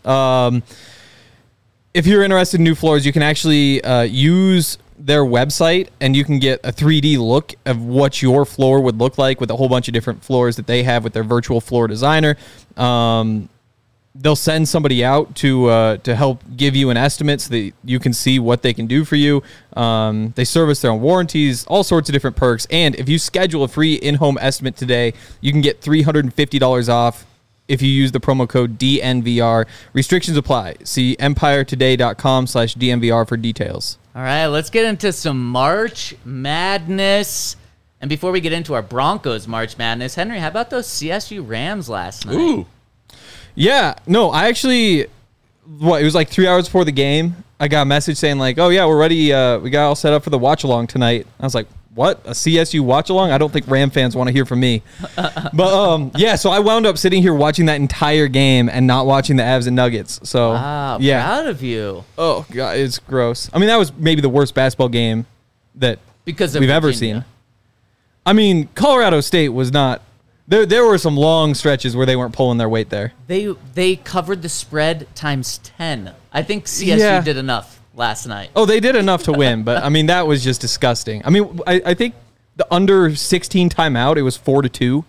If you're interested in new floors, you can actually use their website, and you can get a 3D look of what your floor would look like with a whole bunch of different floors that they have with their virtual floor designer. They'll send somebody out to help give you an estimate so that you can see what they can do for you. They service their own warranties, all sorts of different perks. And if you schedule a free in-home estimate today, you can get $350 off if you use the promo code DNVR. Restrictions apply. See EmpireToday.com/DNVR for details. All right, let's get into some March Madness. And before we get into our Broncos March Madness, Henry, how about those CSU Rams last night? Ooh. Yeah, no, I actually, it was like 3 hours before the game. I got a message saying like, oh yeah, we're ready. We got all set up for the watch along tonight. I was like, what? A CSU watch along? I don't think Ram fans want to hear from me. But yeah, so I wound up sitting here watching that entire game and not watching the Avs and Nuggets. So Wow, yeah. proud of you. Oh god, it's gross. I mean, that was maybe the worst basketball game that Because of we've ever Virginia. seen. I mean, Colorado State was not. There were some long stretches where they weren't pulling their weight there. They covered the spread times 10. I think CSU did enough last night. Oh, they did enough to win, but I mean that was just disgusting. I mean, I think the under 16 timeout, it was 4-2.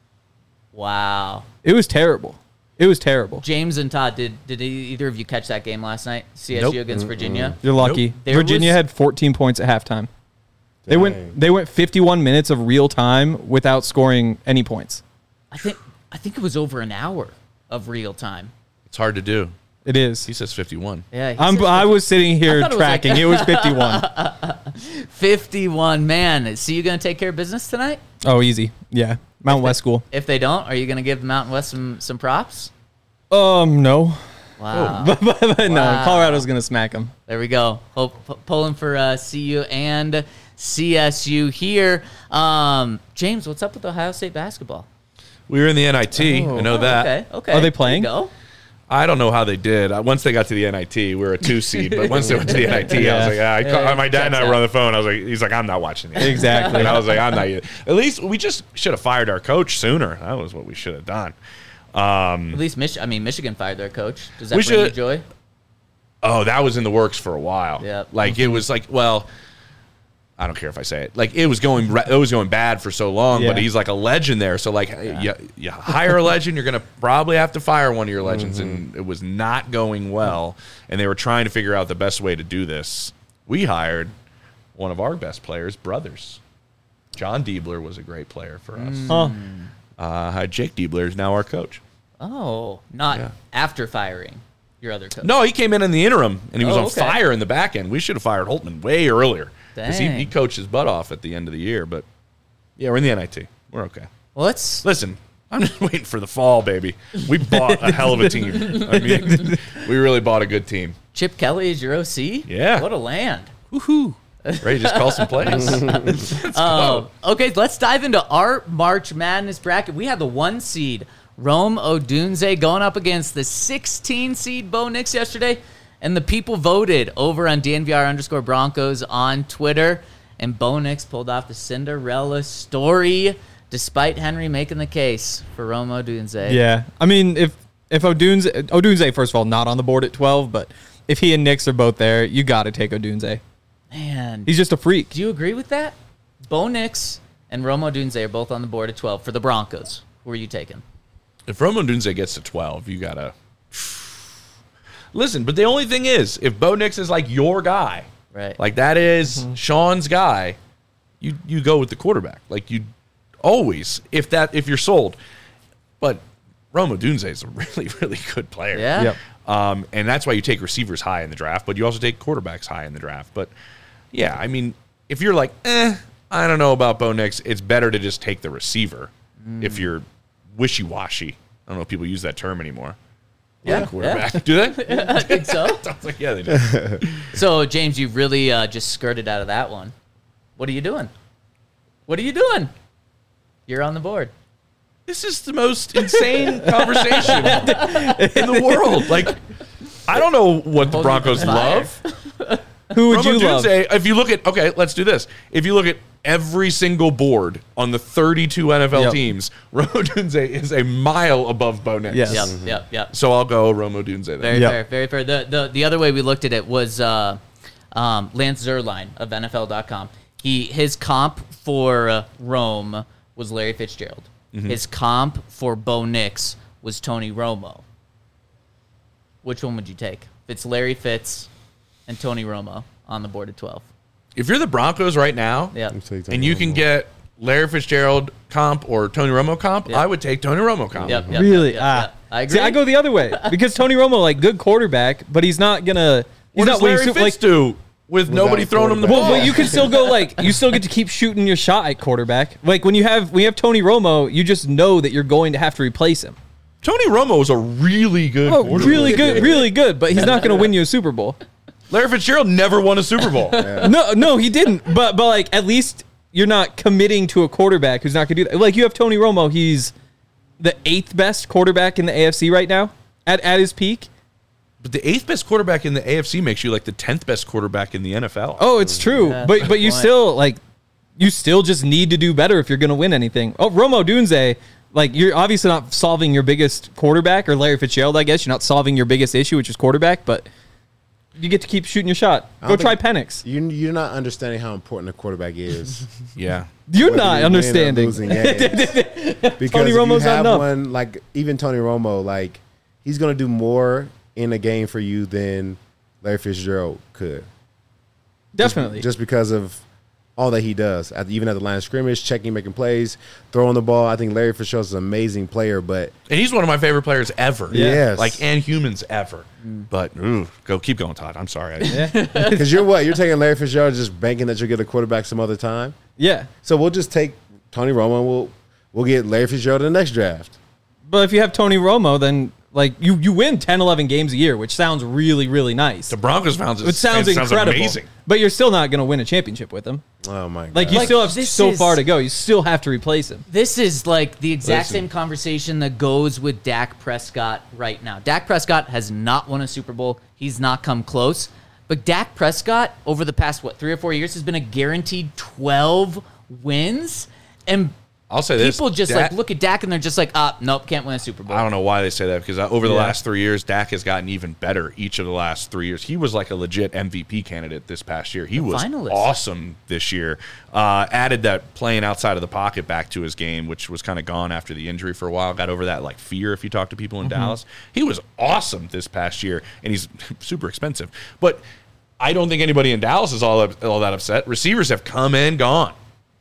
Wow. It was terrible. It was terrible. James and Todd, did either of you catch that game last night? CSU Nope. against Virginia? You're lucky. Nope. There Virginia was- had 14 points at halftime. Dang. They went 51 minutes of real time without scoring any points. I think it was over an hour of real time. It's hard to do. It is. He says 51. Yeah, he I says was sitting here thought it was like- tracking. It was 51. 51, man. So you going to take care of business tonight? Oh, easy. Yeah. Mountain West School. If they don't, are you going to give Mountain West some props? No. Wow. but no, Wow. Colorado's going to smack them. There we go. Pulling for CU and CSU here. James, what's up with Ohio State basketball? We were in the NIT. I know that. Okay. Are they There you playing? go. I don't know how they did. Once they got to the NIT, we were a 2 seed. But once they went to the NIT, I was like, my dad and I were on the phone. I was like, he's like, I'm not watching it. Exactly. And I was like, I'm not either. At least we just should have fired our coach sooner. That was what we should have done. At least Michigan fired their coach. Does that We bring you should- joy? Oh, that was in the works for a while. Yep. Like it was like, well, I don't care if I say it. Like it was going bad for so long, but Yeah. he's like a legend there. So like, you hire a legend, you're gonna probably have to fire one of your legends, and it was not going well. And they were trying to figure out the best way to do this. We hired one of our best players' brothers. John Diebler was a great player for us. Jake Diebler is now our coach. Oh, not Yeah. after firing your other coach. No, he came in the interim, and he was Oh, on okay. fire in the back end. We should have fired Holtman way earlier. Because he Dang. coached his butt off at the end of the year. But, yeah, we're in the NIT. We're okay. Well, let's Listen, I'm just waiting for the fall, baby. We bought a hell of a team. I mean, we really bought a good team. Chip Kelly is your OC? Yeah. What a land. Woohoo. Ready to just call some plays. Okay, let's dive into our March Madness bracket. We had the 1 seed, Rome Odunze, going up against the 16 seed Bo Nix yesterday. And the people voted over on DNVR_Broncos on Twitter. And Bo Nix pulled off the Cinderella story, despite Henry making the case for Rome Odunze. Yeah. I mean, if Odunze, first of all, not on the board at 12, but if he and Nix are both there, you got to take Odunze. Man, He's just a freak. do you agree with that? Bo Nix and Rome Odunze are both on the board at 12 for the Broncos. Who are you taking? If Rome Odunze gets to 12, you got to... Listen, but the only thing is, if Bo Nix is like your guy, Right. like that is Sean's guy, you go with the quarterback. Like you always, if you're sold. But Rome Odunze is a really, really good player. Yeah? Yep. And that's why you take receivers high in the draft, but you also take quarterbacks high in the draft. But yeah, I mean, if you're like, I don't know about Bo Nix, it's better to just take the receiver if you're wishy-washy. I don't know if people use that term anymore. Yeah. Quarterback. Do they? I think so. I was like, yeah, they do. So, James, you really just skirted out of that one. What are you doing? What are you doing? You're on the board. This is the most insane conversation in the world. Like, I don't know what the Broncos love. Who would Rome you love? Odunze, if you look at, okay, let's do this. If you look at every single board on the 32 NFL Yep. teams, Rome Odunze is a mile above Bo Nix. Yes. Yep. So I'll go Rome Odunze then. Very Yep. fair, very fair. The other way we looked at it was Lance Zierlein of NFL.com. His comp for Rome was Larry Fitzgerald. His comp for Bo Nix was Tony Romo. Which one would you take? If it's Larry Fitz and Tony Romo on the board at 12. If you're the Broncos right now, Yeah. I'm taking and you can Romo. get Larry Fitzgerald comp or Tony Romo comp, I would take Tony Romo comp. Yep. Really? I agree. See, I go the other way because Tony Romo, like, good quarterback, but he's not gonna. He's What not does Larry winning Fitz do with nobody throwing him the ball? Well, but you can still go you still get to keep shooting your shot at quarterback. Like when you have Tony Romo, you just know that you're going to have to replace him. Tony Romo is a really good quarterback. Really good, but he's not going to win you a Super Bowl. Larry Fitzgerald never won a Super Bowl. No, he didn't. But like at least you're not committing to a quarterback who's not going to do that. Like you have Tony Romo, he's the 8th best quarterback in the AFC right now at his peak. But the 8th best quarterback in the AFC makes you like the 10th best quarterback in the NFL. Oh, it's true. Yeah, but you point. you still just need to do better if you're going to win anything. Oh, Romo Dunze, like you're obviously not solving your biggest quarterback, or Larry Fitzgerald, I guess. You're not solving your biggest issue, which is quarterback, but you get to keep shooting your shot. Go try Penix. You're not understanding how important a quarterback is. Yeah. You're Whether not you win or understanding. losing games. Because Tony if Romo's you not have enough. one, like even Tony Romo, like he's going to do more in a game for you than Larry Fitzgerald could. Definitely. Just because of all that he does, even at the line of scrimmage, checking, making plays, throwing the ball. I think Larry Fitzgerald's an amazing player, but And he's one of my favorite players ever. Yes. Like, and humans ever. But, keep going, Todd. I'm sorry. because you're taking Larry Fitzgerald just banking that you'll get a quarterback some other time. Yeah. So we'll just take Tony Romo and we'll get Larry Fitzgerald in the next draft. But if you have Tony Romo, then like you win 10, 11 games a year, which sounds really, really nice. The Broncos found It sounds incredible. amazing. But you're still not going to win a championship with him. Oh my god! Like you Like, still have this so is- far to go. You still have to replace him. This is like the exact Listen. same conversation that goes with Dak Prescott right now. Dak Prescott has not won a Super Bowl. He's not come close. But Dak Prescott, over the past, 3 or 4 years, has been a guaranteed 12 wins. And I'll say this. people just Dak- look at Dak and they're just like, nope, can't win a Super Bowl. I don't know why they say that because over the Yeah. last 3 years, Dak has gotten even better each of the last 3 years. He was like a legit MVP candidate this past year. He was finalist. awesome this year. Added that playing outside of the pocket back to his game, which was kind of gone after the injury for a while. Got over that like fear if you talk to people in Dallas. He was awesome this past year, and he's super expensive. But I don't think anybody in Dallas is all that upset. Receivers have come and gone.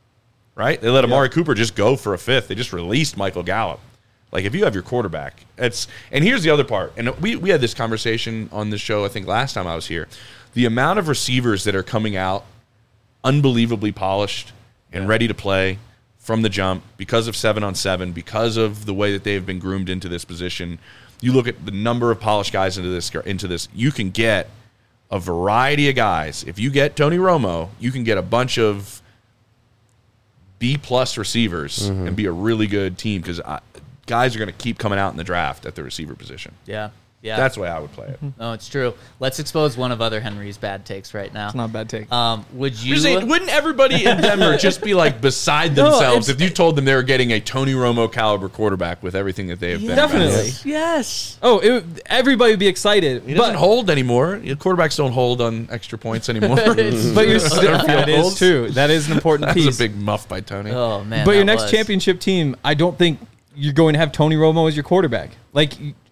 Right? They let Amari Cooper just go for a 5th. They just released Michael Gallup. Like, if you have your quarterback, and here's the other part. And we had this conversation on this show, I think, last time I was here. The amount of receivers that are coming out unbelievably polished and ready to play from the jump because of 7-on-7, because of the way that they've been groomed into this position. You look at the number of polished guys into this. You can get a variety of guys. If you get Tony Romo, you can get a bunch of B-plus receivers and be a really good team because guys are going to keep coming out in the draft at the receiver position. Yeah. Yeah. That's the way I would play it. No, it's true. Let's expose one of other Henry's bad takes right now. It's not a bad take. Would you? Just saying, wouldn't everybody in Denver just be like beside themselves if you told them they were getting a Tony Romo caliber quarterback with everything that they have been? Definitely. Yes. Everybody would be excited. He doesn't hold anymore. Quarterbacks don't hold on extra points anymore. But you're still, that is goals. true. That is an important That piece. was a big muff by Tony. Oh man. But your that next was. championship team, I don't think you're going to have Tony Romo as your quarterback. Like,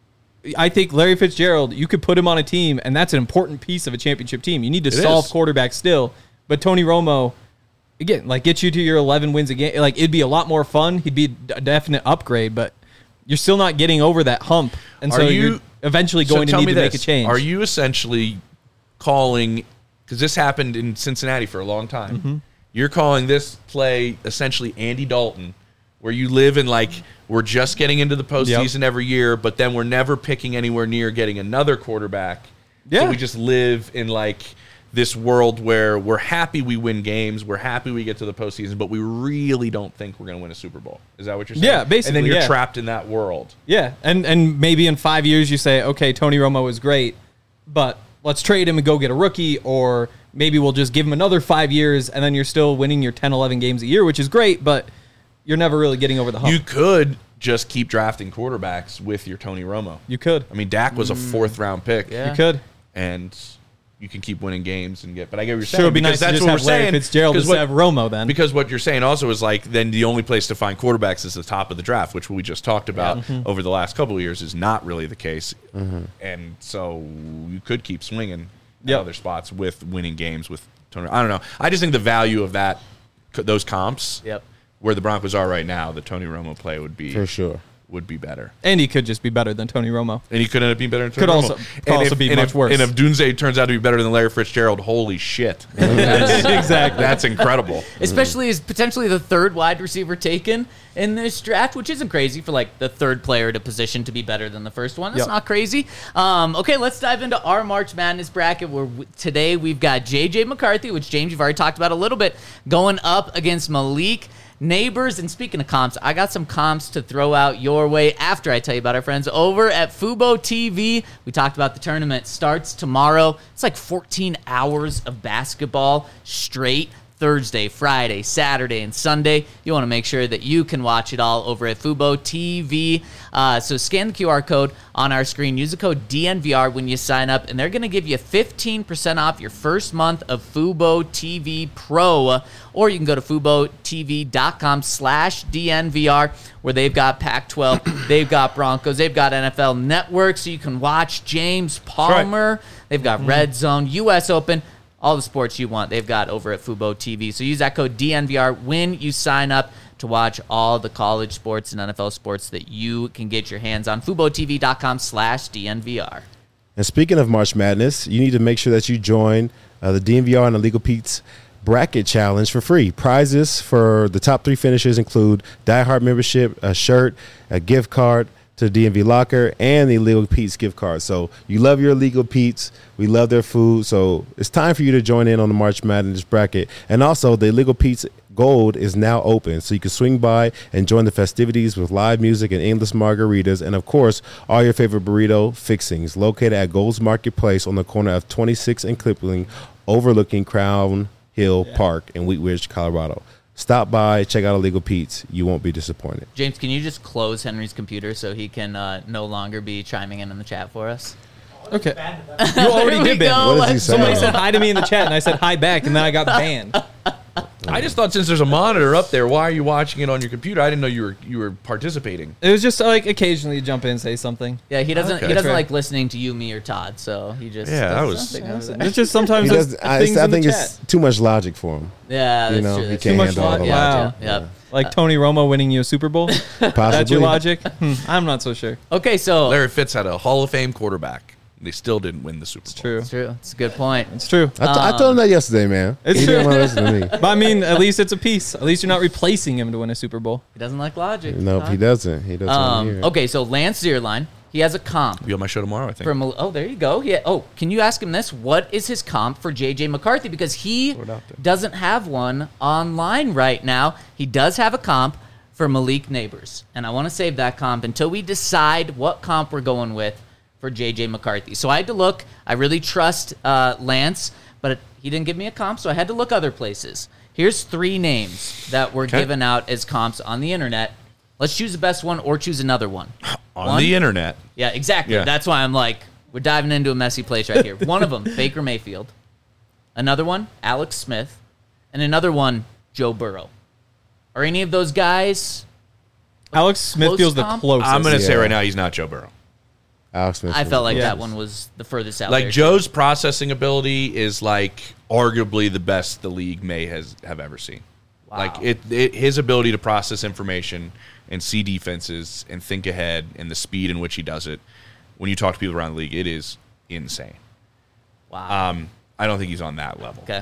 I think Larry Fitzgerald, you could put him on a team, and that's an important piece of a championship team. You need to solve is. quarterback still. But Tony Romo, again, like, get you to your 11 wins a game. Like, it'd be a lot more fun. He'd be a definite upgrade, but you're still not getting over that hump. And so you're eventually going to need to make a change. Are you essentially calling, because this happened in Cincinnati for a long time, you're calling this play essentially Andy Dalton, where you live in like, we're just getting into the postseason every year, but then we're never picking anywhere near getting another quarterback. Yeah. So we just live in like this world where we're happy we win games, we're happy we get to the postseason, but we really don't think we're going to win a Super Bowl. Is that what you're saying? Yeah, basically, And then you're yeah. trapped in that world. Yeah, and maybe in 5 years you say, okay, Tony Romo is great, but let's trade him and go get a rookie, or maybe we'll just give him another 5 years, and then you're still winning your 10, 11 games a year, which is great, but you're never really getting over the hump. You could just keep drafting quarterbacks with your Tony Romo. You could. I mean, Dak was a 4th-round pick. Yeah. You could. And you can keep winning games and get. But I get what you're saying. Sure, it'd be because nice to just have Larry Fitzgerald instead of Romo then. Because what you're saying also is like, then the only place to find quarterbacks is the top of the draft, which we just talked about over the last couple of years is not really the case. And so you could keep swinging at other spots with winning games with Tony. I don't know. I just think the value of those comps where the Broncos are right now, the Tony Romo play would be For sure. would be better. And he could just be better than Tony Romo. And he could end up being better than Could Tony also- Romo. could also be much worse. And if Dunze turns out to be better than Larry Fitzgerald, holy shit. Exactly. That's incredible. Especially as potentially the third wide receiver taken in this draft, which isn't crazy for like the third player to position to be better than the first one. That's Yep. not crazy. Okay, let's dive into our March Madness bracket where today we've got J.J. McCarthy, which James, you've already talked about a little bit, going up against Malik Neighbors. And speaking of comps, I got some comps to throw out your way after I tell you about our friends over at Fubo TV. We talked about the tournament starts tomorrow. It's like 14 hours of basketball straight. Thursday, Friday, Saturday, and Sunday. You want to make sure that you can watch it all over at Fubo TV. So scan the QR code on our screen. Use the code DNVR when you sign up, and they're going to give you 15% off your first month of Fubo TV Pro. Or you can go to FuboTV.com/DNVR, where they've got Pac-12, they've got Broncos, they've got NFL Network, so you can watch James Palmer. They've got Red Zone, U.S. Open. All the sports you want, they've got over at Fubo TV. So use that code DNVR when you sign up to watch all the college sports and NFL sports that you can get your hands on. FuboTV.com/DNVR. And speaking of March Madness, you need to make sure that you join the DNVR and the Legal Pete's Bracket Challenge for free. Prizes for the top 3 finishers include Die Hard membership, a shirt, a gift card to the DMV Locker, and the Legal Pete's gift card. So you love your Legal Pete's. We love their food. So it's time for you to join in on the March Madness bracket. And also, the Legal Pete's Gold is now open, so you can swing by and join the festivities with live music and endless margaritas, and of course, all your favorite burrito fixings. Located at Gold's Marketplace on the corner of 26 and Kipling, overlooking Crown Hill Park in Wheat Ridge, Colorado. Stop by, check out Illegal Pete's. You won't be disappointed. James, can you just close Henry's computer so he can no longer be chiming in the chat for us? Okay. You already There we did ban. go. What does he say? Somebody said hi to me in the chat, and I said hi back, and then I got banned. I just thought since there's a monitor up there, why are you watching it on your computer? I didn't know you were participating. It was just like occasionally you jump in and say something. Yeah, he doesn't. Okay. He doesn't Right. like listening to you, me, or Todd. So he just Yeah, that does was- something over there. It's just sometimes He there's does, things I in the think chat. it's too much logic for him. Yeah, that's You know, true. he That's can't true. handle all the Wow. logic. Yep. Like Tony Romo winning you a Super Bowl. That's Possibly. your logic? I'm not so sure. Okay, so Larry Fitz had a Hall of Fame quarterback. They still didn't win the Super Bowl. True. it's true. It's a good point. It's true. I told him that yesterday, man. It's He didn't true. want to listen to me. But I mean, at least it's a piece. At least you're not replacing him to win a Super Bowl. He doesn't like logic. Nope, Todd. he doesn't. He doesn't want to hear it. Okay, so Lance Zierlein, he has a comp. Be on my show tomorrow, I think. From there you go. Can you ask him this? What is his comp for JJ McCarthy? Because he Throw it out there. doesn't have one online right now. He does have a comp for Malik Neighbors, and I want to save that comp until we decide what comp we're going with for JJ McCarthy. So I had to look. I really trust Lance, but he didn't give me a comp, so I had to look other places. Here's 3 names that were Okay. given out as comps on the internet. Let's choose the best one or choose another one. on One? the internet. Yeah, exactly. Yeah. That's why I'm like, we're diving into a messy place right here. One of them, Baker Mayfield. Another one, Alex Smith. And another one, Joe Burrow. Are any of those guys? Alex Smith Close feels the comp? closest. I'm going to say Yeah. right now he's not Joe Burrow. Alex Smith. I felt like Yeah. that one was the furthest out. Like there. Joe's processing ability is like arguably the best the league may have ever seen. Wow. Like his ability to process information and see defenses and think ahead and the speed in which he does it. When you talk to people around the league, it is insane. Wow. I don't think he's on that level. Okay.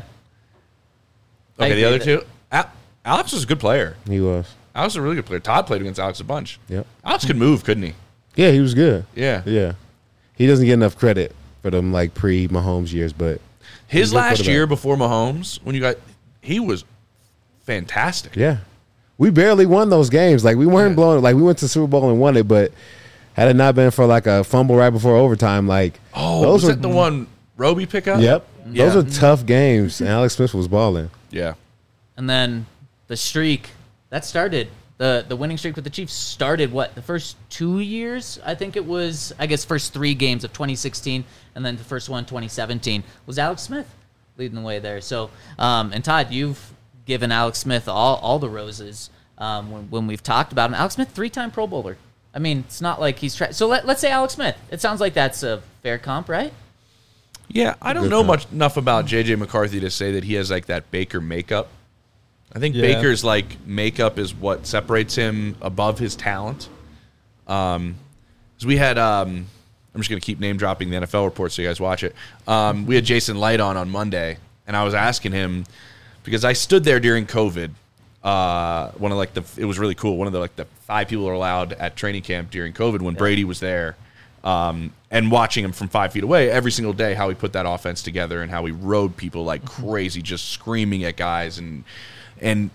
I Okay, agree the other that- two. Alex was a good player. He was. Alex was a really good player. Todd played against Alex a bunch. Yep. Alex could move, couldn't he? Yeah, he was good. Yeah. Yeah. He doesn't get enough credit for them like pre-Mahomes years, but His He's a good last quarterback. year before Mahomes, he was fantastic. yeah. We barely won those games. Like we weren't blowing. Like we went to Super Bowl and won it, but had it not been for like a fumble right before overtime, like Oh, was that the one Roby pick up? Yep. Yeah. Those are tough games, and Alex Smith was balling. Yeah. And then the streak that started. The winning streak with the Chiefs started the first 2 years? I think it was, first 3 games of 2016, and then the first one, 2017, was Alex Smith leading the way there. So, and Todd, you've given Alex Smith all the roses when we've talked about him. Alex Smith, 3-time Pro Bowler. I mean, it's not like he's so let's say Alex Smith. It sounds like that's a fair comp, right? Yeah, I don't Good know comp. enough about J.J. McCarthy to say that he has like that Baker makeup. I think Yeah. Baker's like makeup is what separates him above his talent. 'Cause we had I'm just gonna keep name dropping the NFL report so you guys watch it. We had Jason Light on Monday, and I was asking him because I stood there during COVID. One of like it was really cool. One of the 5 people are allowed at training camp during COVID when Brady was there. And watching him from 5 feet away every single day, how he put that offense together and how he rode people like crazy, just screaming at guys. And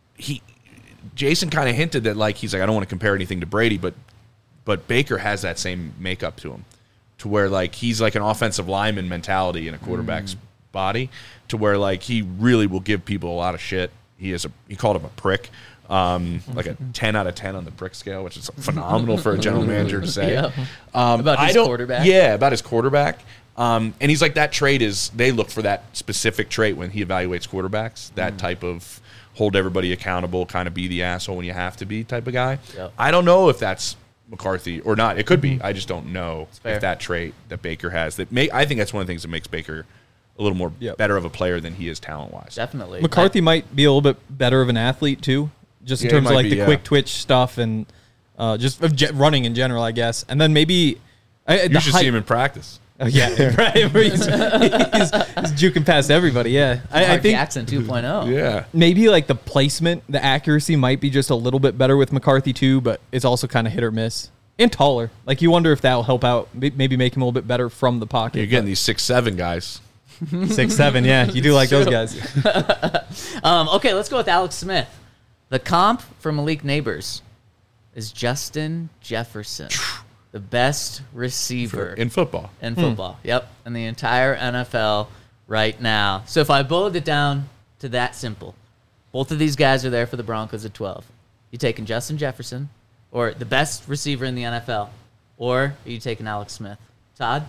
Jason kind of hinted that like, he's like, I don't want to compare anything to Brady, but Baker has that same makeup to him, to where like, he's like an offensive lineman mentality in a quarterback's body, to where like, he really will give people a lot of shit. He called him a prick. Like a 10 out of 10 on the brick scale, which is phenomenal for a general manager to say. Yeah. About his quarterback. Yeah, about his quarterback. And he's like, that trait is, they look for that specific trait when he evaluates quarterbacks, that type of hold everybody accountable, kind of be the asshole when you have to be type of guy. Yep. I don't know if that's McCarthy or not. It could be. I just don't know if that trait that Baker has. I think that's one of the things that makes Baker a little more better of a player than he is talent-wise. Definitely. McCarthy might be a little bit better of an athlete too, just in Yeah, he terms of might like be, the yeah. quick twitch stuff and just of running in general, I guess. And then maybe You should see him in practice. Yeah, right. He's juking past everybody. Yeah, I Mark think Jackson 2.0. Yeah. maybe like the placement, the accuracy might be just a little bit better with McCarthy too, but it's also kind of hit or miss. And taller. Like you wonder if that'll help out, maybe make him a little bit better from the pocket. You're getting these 6'7" guys. 6'7", yeah. You do like those guys. Okay, let's go with Alex Smith. The comp for Malik Neighbors is Justin Jefferson, the best receiver In football. in football. Yep, in the entire NFL right now. So if I boiled it down to that simple, both of these guys are there for the Broncos at 12. You taking Justin Jefferson, or the best receiver in the NFL, or are you taking Alex Smith? Todd?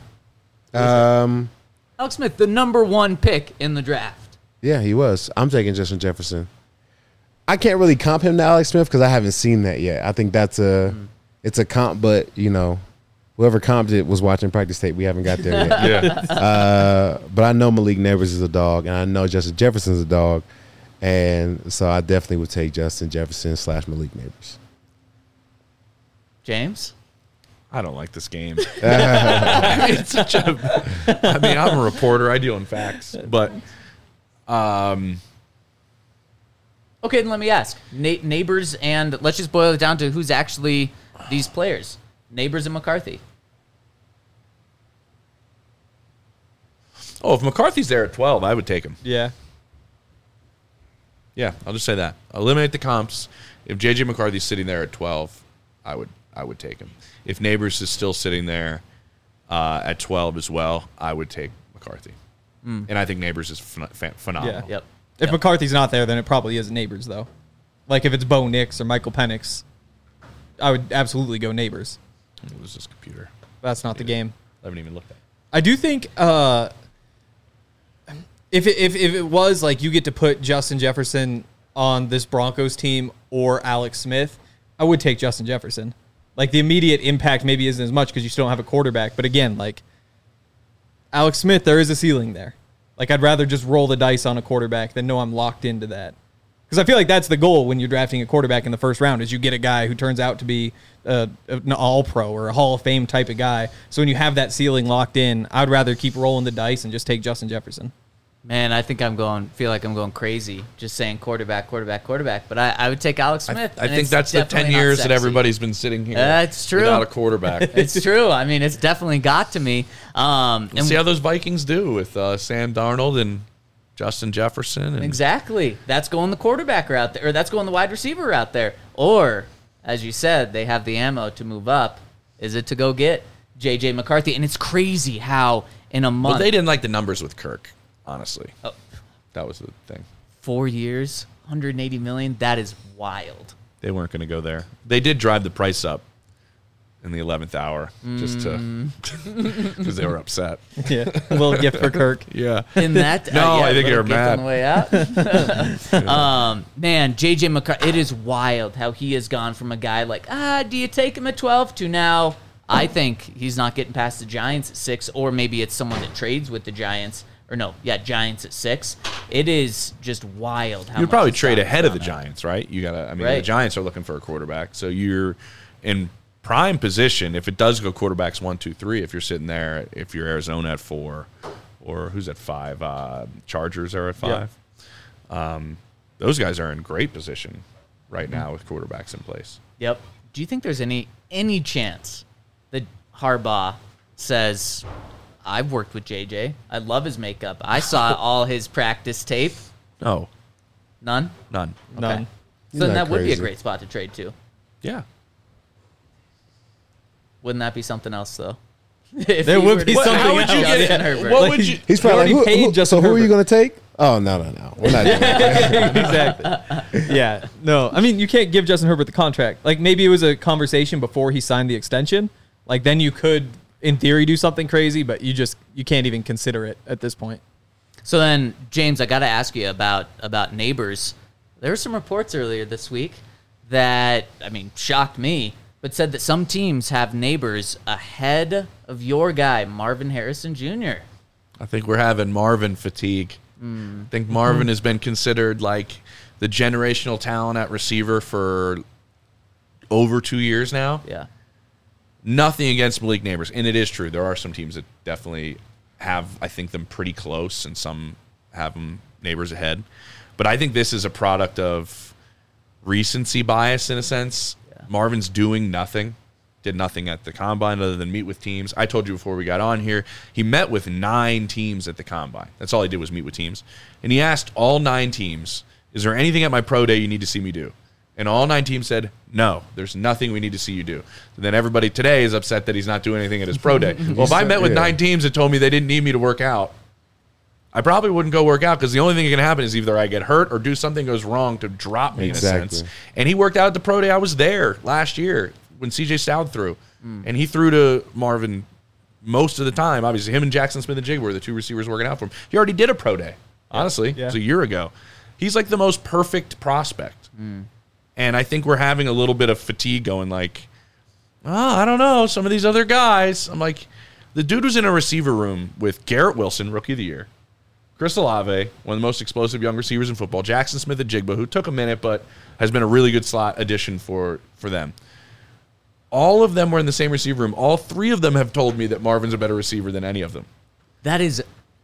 Alex Smith, the number 1 pick in the draft. Yeah, he was. I'm taking Justin Jefferson. I can't really comp him to Alex Smith because I haven't seen that yet. I think that's it's a comp, but you know, whoever comped it was watching practice tape. We haven't got there yet. Yeah. But I know Malik Neighbors is a dog, and I know Justin Jefferson's a dog, and so I definitely would take Justin Jefferson / Malik Neighbors. James? I don't like this game. It's such a. I mean, I'm a reporter. I deal in facts, but Okay, then let me ask. Neighbors and let's just boil it down to who's actually these players. Neighbors and McCarthy. if McCarthy's there at 12, I would take him. Yeah. Yeah, I'll just say that. Eliminate the comps. If JJ McCarthy's sitting there at 12, I would take him. If Neighbors is still sitting there at 12 as well, I would take McCarthy. And I think Neighbors is phenomenal. Yeah. Yep. If McCarthy's not there, then it probably is Neighbors, though. Like if it's Bo Nix or Michael Penix, I would absolutely go Neighbors. It was this computer. That's not the game. I haven't even looked at it. I do think if it was like you get to put Justin Jefferson on this Broncos team or Alex Smith, I would take Justin Jefferson. Like the immediate impact maybe isn't as much because you still don't have a quarterback. But again, like Alex Smith, there is a ceiling there. Like I'd rather just roll the dice on a quarterback than know I'm locked into that. Because I feel like that's the goal when you're drafting a quarterback in the first round is you get a guy who turns out to be an all-pro or a Hall of Fame type of guy. So when you have that ceiling locked in, I'd rather keep rolling the dice and just take Justin Jefferson. Man, I think feel like I'm going crazy just saying quarterback. But I would take Alex Smith. I think that's the 10 years that everybody's been sitting here. That's true. Without a quarterback. It's true. I mean, it's definitely got to me. We'll see how those Vikings do with Sam Darnold and Justin Jefferson. And Exactly. That's going the quarterback route there, or that's going the wide receiver route there. Or, as you said, they have the ammo to move up. Is it to go get J.J. McCarthy? And it's crazy how in a month. Well, they didn't like the numbers with Kirk, honestly. Oh. That was the thing. 4 years, $180 million. That is wild. They weren't going to go there. They did drive the price up in the 11th hour just to because they were upset. Yeah, a little gift for Kirk. Yeah. In that, No, I think little you're gift mad. on the way out. Man, JJ McCarthy, it is wild how he has gone from a guy like, do you take him at 12 to now, I think he's not getting past the Giants at 6, or maybe it's someone that trades with the Giants. Or no, yeah, Giants at 6. It is just wild how You'd much probably the trade stock ahead has of the gone up. Giants, right? You gotta. I mean, Right. the Giants are looking for a quarterback, so you're in prime position. If it does go quarterbacks 1, 2, 3, if you're sitting there, if you're Arizona at 4, or who's at 5, Chargers are at 5. Those guys are in great position right now with quarterbacks in place. Yep. Do you think there's any chance that Harbaugh says, I've worked with JJ. I love his makeup. I saw all his practice tape. No, None? none. None. So then Isn't that that would be a crazy? great spot to trade to. Yeah. Wouldn't that be something else, though? If There he would were be to something trade else. Justin Yeah. Herbert. What Like, would you? He's probably already like, paid Justin so who are you Herbert. going to take? Oh, no. We're not doing that. Exactly. Yeah. No, I mean, you can't give Justin Herbert the contract. Like, maybe it was a conversation before he signed the extension. Like, then you could, in theory, do something crazy, but you can't even consider it at this point. So then, James, I got to ask you about Neighbors. There were some reports earlier this week that, I mean, shocked me, but said that some teams have Neighbors ahead of your guy, Marvin Harrison Jr. I think we're having Marvin fatigue. I think Marvin has been considered like the generational talent at receiver for over 2 years now. Yeah. Nothing against Malik Neighbors, and it is true. There are some teams that definitely have, I think, them pretty close, and some have them Neighbors ahead. But I think this is a product of recency bias in a sense. Yeah. Marvin's doing nothing, did nothing at the combine other than meet with teams. I told you before we got on here, he met with 9 teams at the combine. That's all he did was meet with teams. And he asked all 9 teams, is there anything at my pro day you need to see me do? And all 9 teams said, no, there's nothing we need to see you do. And then everybody today is upset that he's not doing anything at his pro day. Well, if I met with 9 teams that told me they didn't need me to work out, I probably wouldn't go work out because the only thing that can happen is either I get hurt or do something goes wrong to drop me in a Exactly. sense. And he worked out at the pro day. I was there last year when CJ Stroud threw. And he threw to Marvin most of the time. Obviously, him and Jackson Smith-Njigba were the 2 receivers working out for him. He already did a pro day, honestly. Yeah. It was a year ago. He's like the most perfect prospect. And I think we're having a little bit of fatigue going like, oh, I don't know, some of these other guys. I'm like, the dude was in a receiver room with Garrett Wilson, Rookie of the Year, Chris Olave, one of the most explosive young receivers in football, Jackson Smith-Njigba, who took a minute but has been a really good slot addition for them. All of them were in the same receiver room. All 3 of them have told me that Marvin's a better receiver than any of them. That is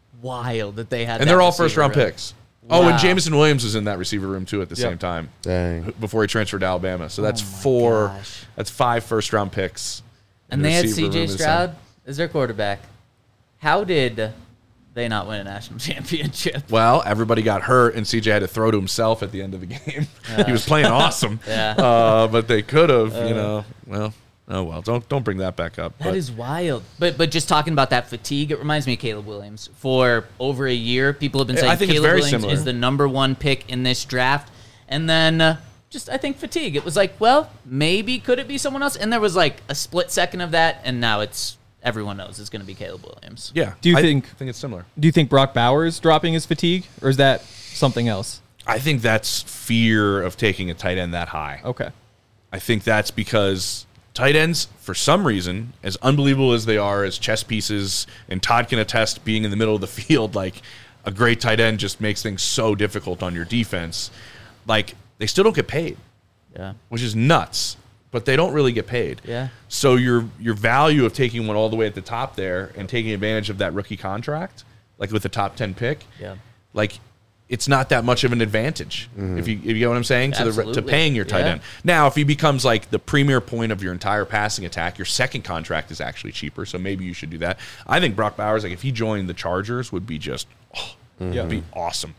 wild that they had And that they're all receiver first-round room. picks. Oh, Wow. and Jameson Williams was in that receiver room, too, at the Yep. same time. Dang. Before he transferred to Alabama. So that's Oh my 4. gosh. That's 5 first-round picks. in And the they had receiver room CJ of the Stroud as their quarterback. How did they not win a national championship? Well, everybody got hurt, and CJ had to throw to himself at the end of the game. He was playing awesome, Yeah. but they could have, Well, oh well. Don't bring that back up. That is wild. But just talking about that fatigue, it reminds me of Caleb Williams. For over a year, people have been Yeah, saying I think it's Caleb very Williams similar. is the number 1 pick in this draft. And then just, I think, fatigue. It was like, well, maybe could it be someone else? And there was like a split second of that, and now it's everyone knows it's going to be Caleb Williams. Yeah. Do you I think- think it's similar? Do you think Brock Bowers dropping his fatigue, or is that something else? I think that's fear of taking a tight end that high. Okay. I think that's because tight ends, for some reason, as unbelievable as they are as chess pieces, and Todd can attest being in the middle of the field, like a great tight end just makes things so difficult on your defense. Like, they still don't get paid, Yeah. which is nuts, but they don't really get paid. Yeah. So your value of taking one all the way at the top there and taking advantage of that rookie contract, like with the top 10 pick, Yeah. like it's not that much of an advantage if you get what I'm saying to Absolutely. paying your tight Yeah. end. Now, if he becomes like the premier point of your entire passing attack, your second contract is actually cheaper, so maybe you should do that. I think Brock Bowers, like if he joined the Chargers, would be just it'd be awesome.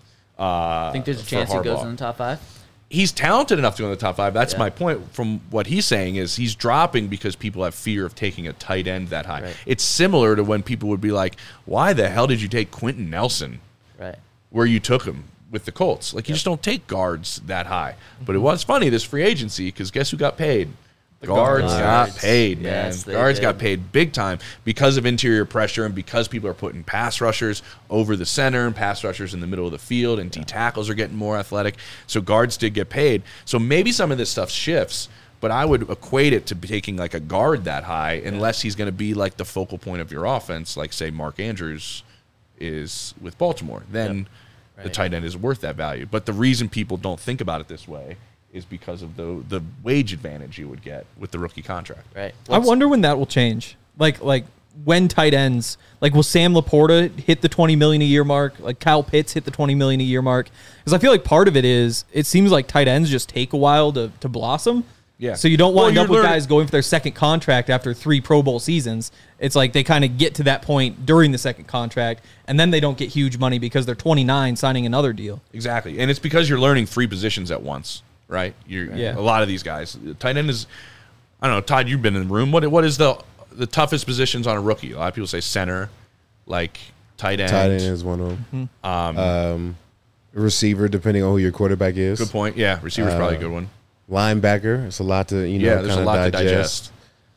I think there's a for chance he goes Harbaugh. in the top 5. He's talented enough to go in the top 5. That's Yeah. my point. From what he's saying is he's dropping because people have fear of taking a tight end that high. Right. It's similar to when people would be like, "Why the hell did you take Quentin Nelson Right. where you took him with the Colts? Like you just don't take guards that high." But it was funny this free agency because guess who got paid? The guards got guards. paid, man. Yes, they Guards got did. paid big time because of interior pressure and because people are putting pass rushers over the center and pass rushers in the middle of the field and D tackles are getting more athletic. So guards did get paid. So maybe some of this stuff shifts, but I would equate it to taking like a guard that high unless he's going to be like the focal point of your offense, like say Mark Andrews is with Baltimore. Then the Right. tight end is worth that value. But the reason people don't think about it this way is because of the wage advantage you would get with the rookie contract. Right. I wonder when that will change. Like when tight ends, like will Sam Laporta hit the $20 million a year mark? Like Kyle Pitts hit the $20 million a year mark? Because I feel like part of it is it seems like tight ends just take a while to blossom. Yeah. So you don't Well, wind you're up with learning- guys going for their second contract after 3 Pro Bowl seasons. It's like they kind of get to that point during the second contract, and then they don't get huge money because they're 29 signing another deal. Exactly. And it's because you're learning 3 positions at once, right? Yeah. A lot of these guys. Tight end is, I don't know, Todd, you've been in the room. What is the toughest positions on a rookie? A lot of people say center, like tight end. Tight end is one of them. Receiver, depending on who your quarterback is. Good point. Yeah, receiver's probably a good one. Linebacker, it's a lot to Yeah, there's a kinda lot to digest.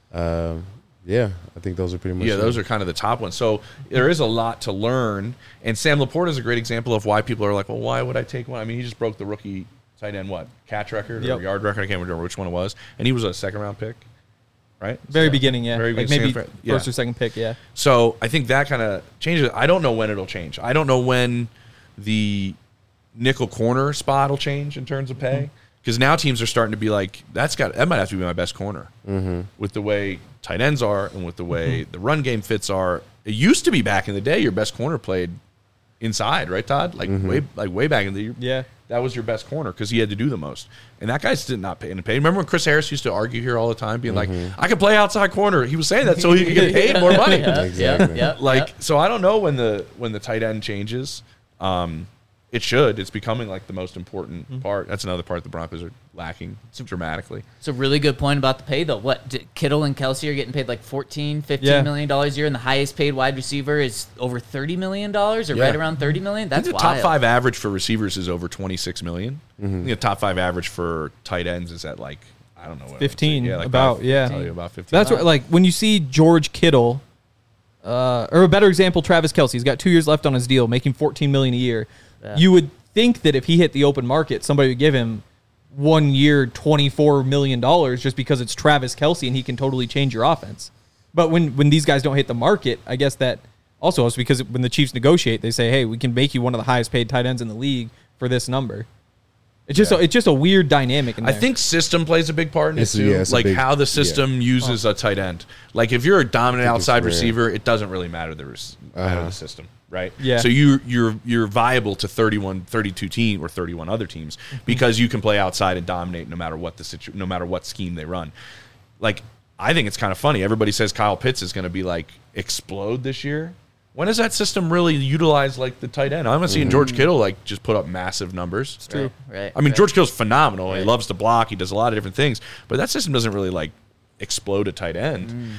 Yeah, I think those are pretty much. Yeah, those are kind of the top ones. So there is a lot to learn. And Sam Laporta is a great example of why people are like, well, why would I take one? I mean, he just broke the rookie tight end, catch record Yep. or yard record? I can't remember which one it was. And he was a second-round pick, right? Very beginning, yeah. Very like beginning. maybe Yeah. first or second pick, yeah. So I think that kind of changes. I don't know when it'll change. I don't know when the nickel corner spot will change in terms of pay. Because now teams are starting to be like, that might have to be my best corner. With the way tight ends are and with the way the run game fits are. It used to be back in the day your best corner played inside, right, Todd? Like way back in the Yeah. that was your best corner because he had to do the most. And that guy's did not pay and pay. Remember when Chris Harris used to argue here all the time, being like, I can play outside corner. He was saying that so he could get paid more money. Exactly. Like, so I don't know when the tight end changes. It should. It's becoming like the most important part. That's another part the Broncos are lacking dramatically. It's a really good point about the pay, though. Kittle and Kelsey are getting paid like $14, $15 Yeah. million a year, and the highest paid wide receiver is over $30 million or right around $30 million. I think That's the top wild. 5 average for receivers is over $26 million. I think the top 5 average for tight ends is at like, I don't know. What 15, like about, yeah. About 15. That's what, like, when you see George Kittle, or a better example, Travis Kelce, he's got 2 years left on his deal, making $14 million a year. Yeah. You would think that if he hit the open market, somebody would give him 1 year, $24 million just because it's Travis Kelce and he can totally change your offense. But when these guys don't hit the market, I guess that also is because when the Chiefs negotiate, they say, hey, we can make you one of the highest paid tight ends in the league for this number. It's just a weird dynamic in there. I think system plays a big part in it It's- too. yeah, it's a like big- how the system uses a tight end. Like if you're a dominant I think it's outside rare. receiver, it doesn't really matter the system, right? Yeah. So you're viable to 32 team or 31 other teams because you can play outside and dominate no matter what no matter what scheme they run. Like I think it's kind of funny. Everybody says Kyle Pitts is going to be like explode this year. When does that system really utilize like the tight end? I'm seeing George Kittle like just put up massive numbers. It's true. Right. I mean, Right. George Kittle's phenomenal. Right. He loves to block. He does a lot of different things, but that system doesn't really like explode a tight end.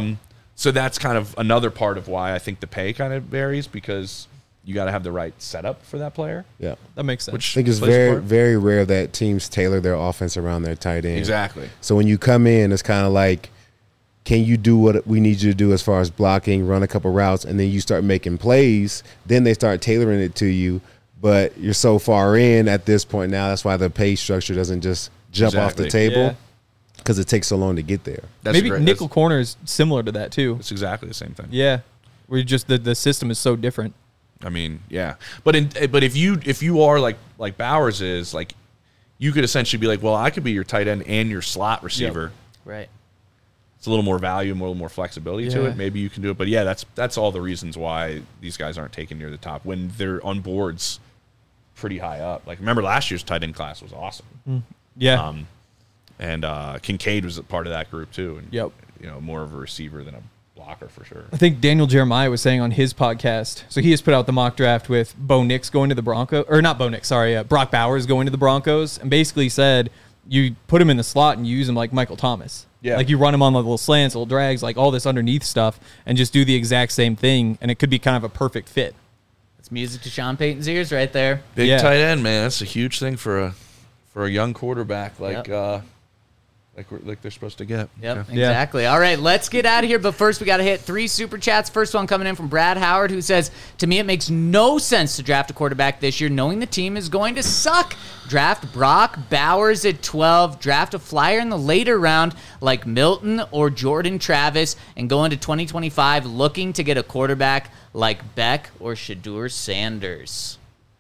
So that's kind of another part of why I think the pay kind of varies because you got to have the right setup for that player. Yeah. that makes sense. Which I think it's plays a very, part. very rare that teams tailor their offense around their tight end. Exactly. So when you come in, it's kind of like, can you do what we need you to do as far as blocking, run a couple routes, and then you start making plays. Then they start tailoring it to you. But you're so far in at this point now. That's why the pay structure doesn't just jump off the Exactly. table Yeah. because it takes so long to get there. That's Maybe great. nickel corner is similar to that too. That's exactly the same thing. Yeah, where you just the system is so different. I mean, yeah, but if you are like Bowers is like, you could essentially be like, well, I could be your tight end and your slot receiver. Right. It's a little more value, a little more flexibility to Yeah. it. Maybe you can do it, but yeah, that's all the reasons why these guys aren't taken near the top when they're on boards pretty high up. Like remember last year's tight end class was awesome, Yeah, and Kincaid was a part of that group too. And Yep. more of a receiver than a blocker for sure. I think Daniel Jeremiah was saying on his podcast. So he has put out the mock draft with Bo Nix going to the Broncos, or not Bo Nix, sorry, Brock Bowers going to the Broncos, and basically said you put him in the slot and you use him like Michael Thomas. Yeah. Like you run him on the little slants, little drags, like all this underneath stuff, and just do the exact same thing, and it could be kind of a perfect fit. It's music to Sean Payton's ears right there. Big Yeah. tight end, man. That's a huge thing for a young quarterback like like they're supposed to get. Yep, Yeah. exactly. All right, let's get out of here. But first, we got to hit 3 super chats. First one coming in from Brad Howard, who says, "To me, it makes no sense to draft a quarterback this year, knowing the team is going to suck. Draft Brock Bowers at 12. Draft a flyer in the later round like Milton or Jordan Travis, and go into 2025 looking to get a quarterback like Beck or Shadur Sanders."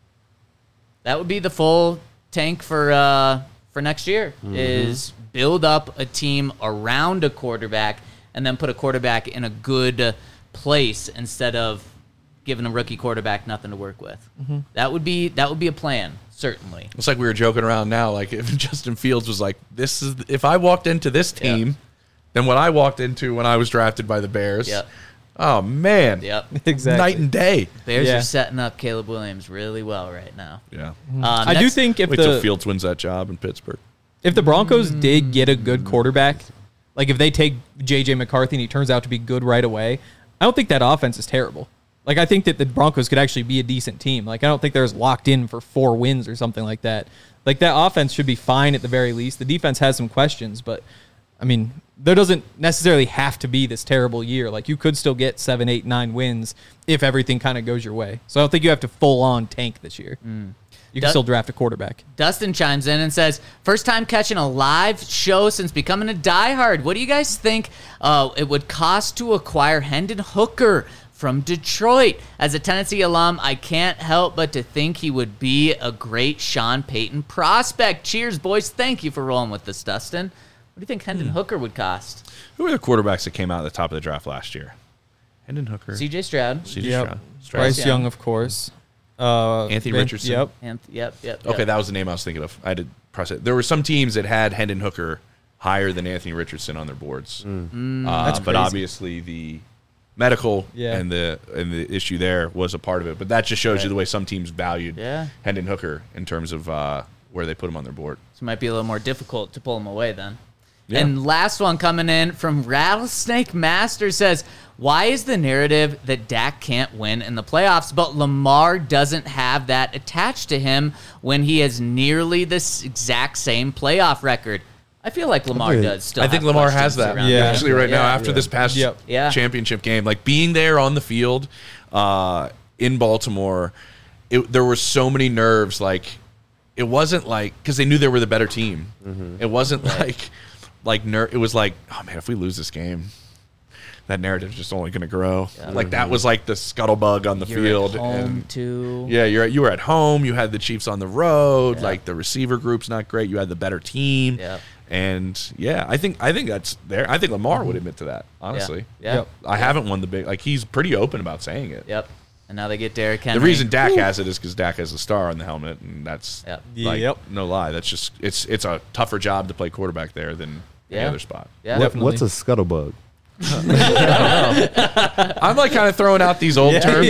That would be the full tank for next year. Is build up a team around a quarterback and then put a quarterback in a good place instead of giving a rookie quarterback nothing to work with. That would be a plan, certainly. It's like we were joking around now. Like if Justin Fields was like, if I walked into this team, then what I walked into when I was drafted by the Bears. Yep. Oh man. Yep. Exactly. Night and day. Bears Yeah. are setting up Caleb Williams really well right now. Yeah. I do think if Wait till the Fields wins that job in Pittsburgh. if the Broncos did get a good quarterback, like if they take J.J. McCarthy and he turns out to be good right away, I don't think that offense is terrible. Like, I think that the Broncos could actually be a decent team. Like, I don't think they're locked in for 4 wins or something like that. Like, that offense should be fine at the very least. The defense has some questions, but, I mean, there doesn't necessarily have to be this terrible year. Like, you could still get 7, 8, 9 wins if everything kind of goes your way. So I don't think you have to full-on tank this year. You can still draft a quarterback. Dustin chimes in and says, "First time catching a live show since becoming a diehard. What do you guys think it would cost to acquire Hendon Hooker from Detroit? As a Tennessee alum, I can't help but to think he would be a great Sean Payton prospect. Cheers, boys. Thank you for rolling with this, Dustin. What do you think Hendon Hooker would cost?" Who were the quarterbacks that came out at the top of the draft last year? Hendon Hooker. CJ Stroud. C.J. Yep. Stroud. Bryce Young, of course. Anthony Richardson. Yep. And, yep. Okay, that was the name I was thinking of. I did press it. There were some teams that had Hendon Hooker higher than Anthony Richardson on their boards. That's But crazy. obviously the medical Yeah. and the issue there was a part of it. But that just shows you the way some teams valued Yeah. Hendon Hooker in terms of where they put him on their board. So it might be a little more difficult to pull him away then. Yeah. And last one coming in from Rattlesnake Master says, "Why is the narrative that Dak can't win in the playoffs, but Lamar doesn't have that attached to him when he has nearly this exact same playoff record?" I feel like Lamar does still. I think have Lamar has questions that around Yeah. actually right now Yeah. after this past Yeah. championship game. Like being there on the field in Baltimore, there were so many nerves. Like it wasn't like because they knew they were the better team. It wasn't it was like, oh man, if we lose this game, that narrative's just only going to grow. Like that was like the scuttlebug on the You're field. at home And too. yeah, you were at home. You had the Chiefs on the road. Yeah. Like the receiver group's not great. You had the better team. Yeah. And yeah, I think that's there. I think Lamar would admit to that. Honestly, Yeah. Yep. I haven't won the big. Like he's pretty open about saying it. Yep. And now they get Derrick Henry. The reason Dak has it is because Dak has the star on the helmet, and that's Yep. like Yep. no lie. That's just it's a tougher job to play quarterback there than any Yeah. other spot. Yeah. Definitely. What's a scuttlebug? I'm like kind of throwing out these old terms.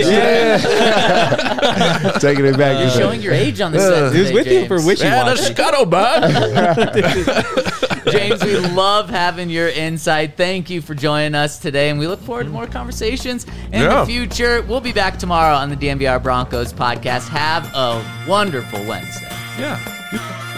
Taking it back. You're showing your age on the set. He was today, with you for James. wishy Man, a washy. scuttlebutt. James, we love having your insight. Thank you for joining us today, and we look forward to more conversations in Yeah. the future. We'll be back tomorrow on the DNVR Broncos podcast. Have a wonderful Wednesday. Yeah.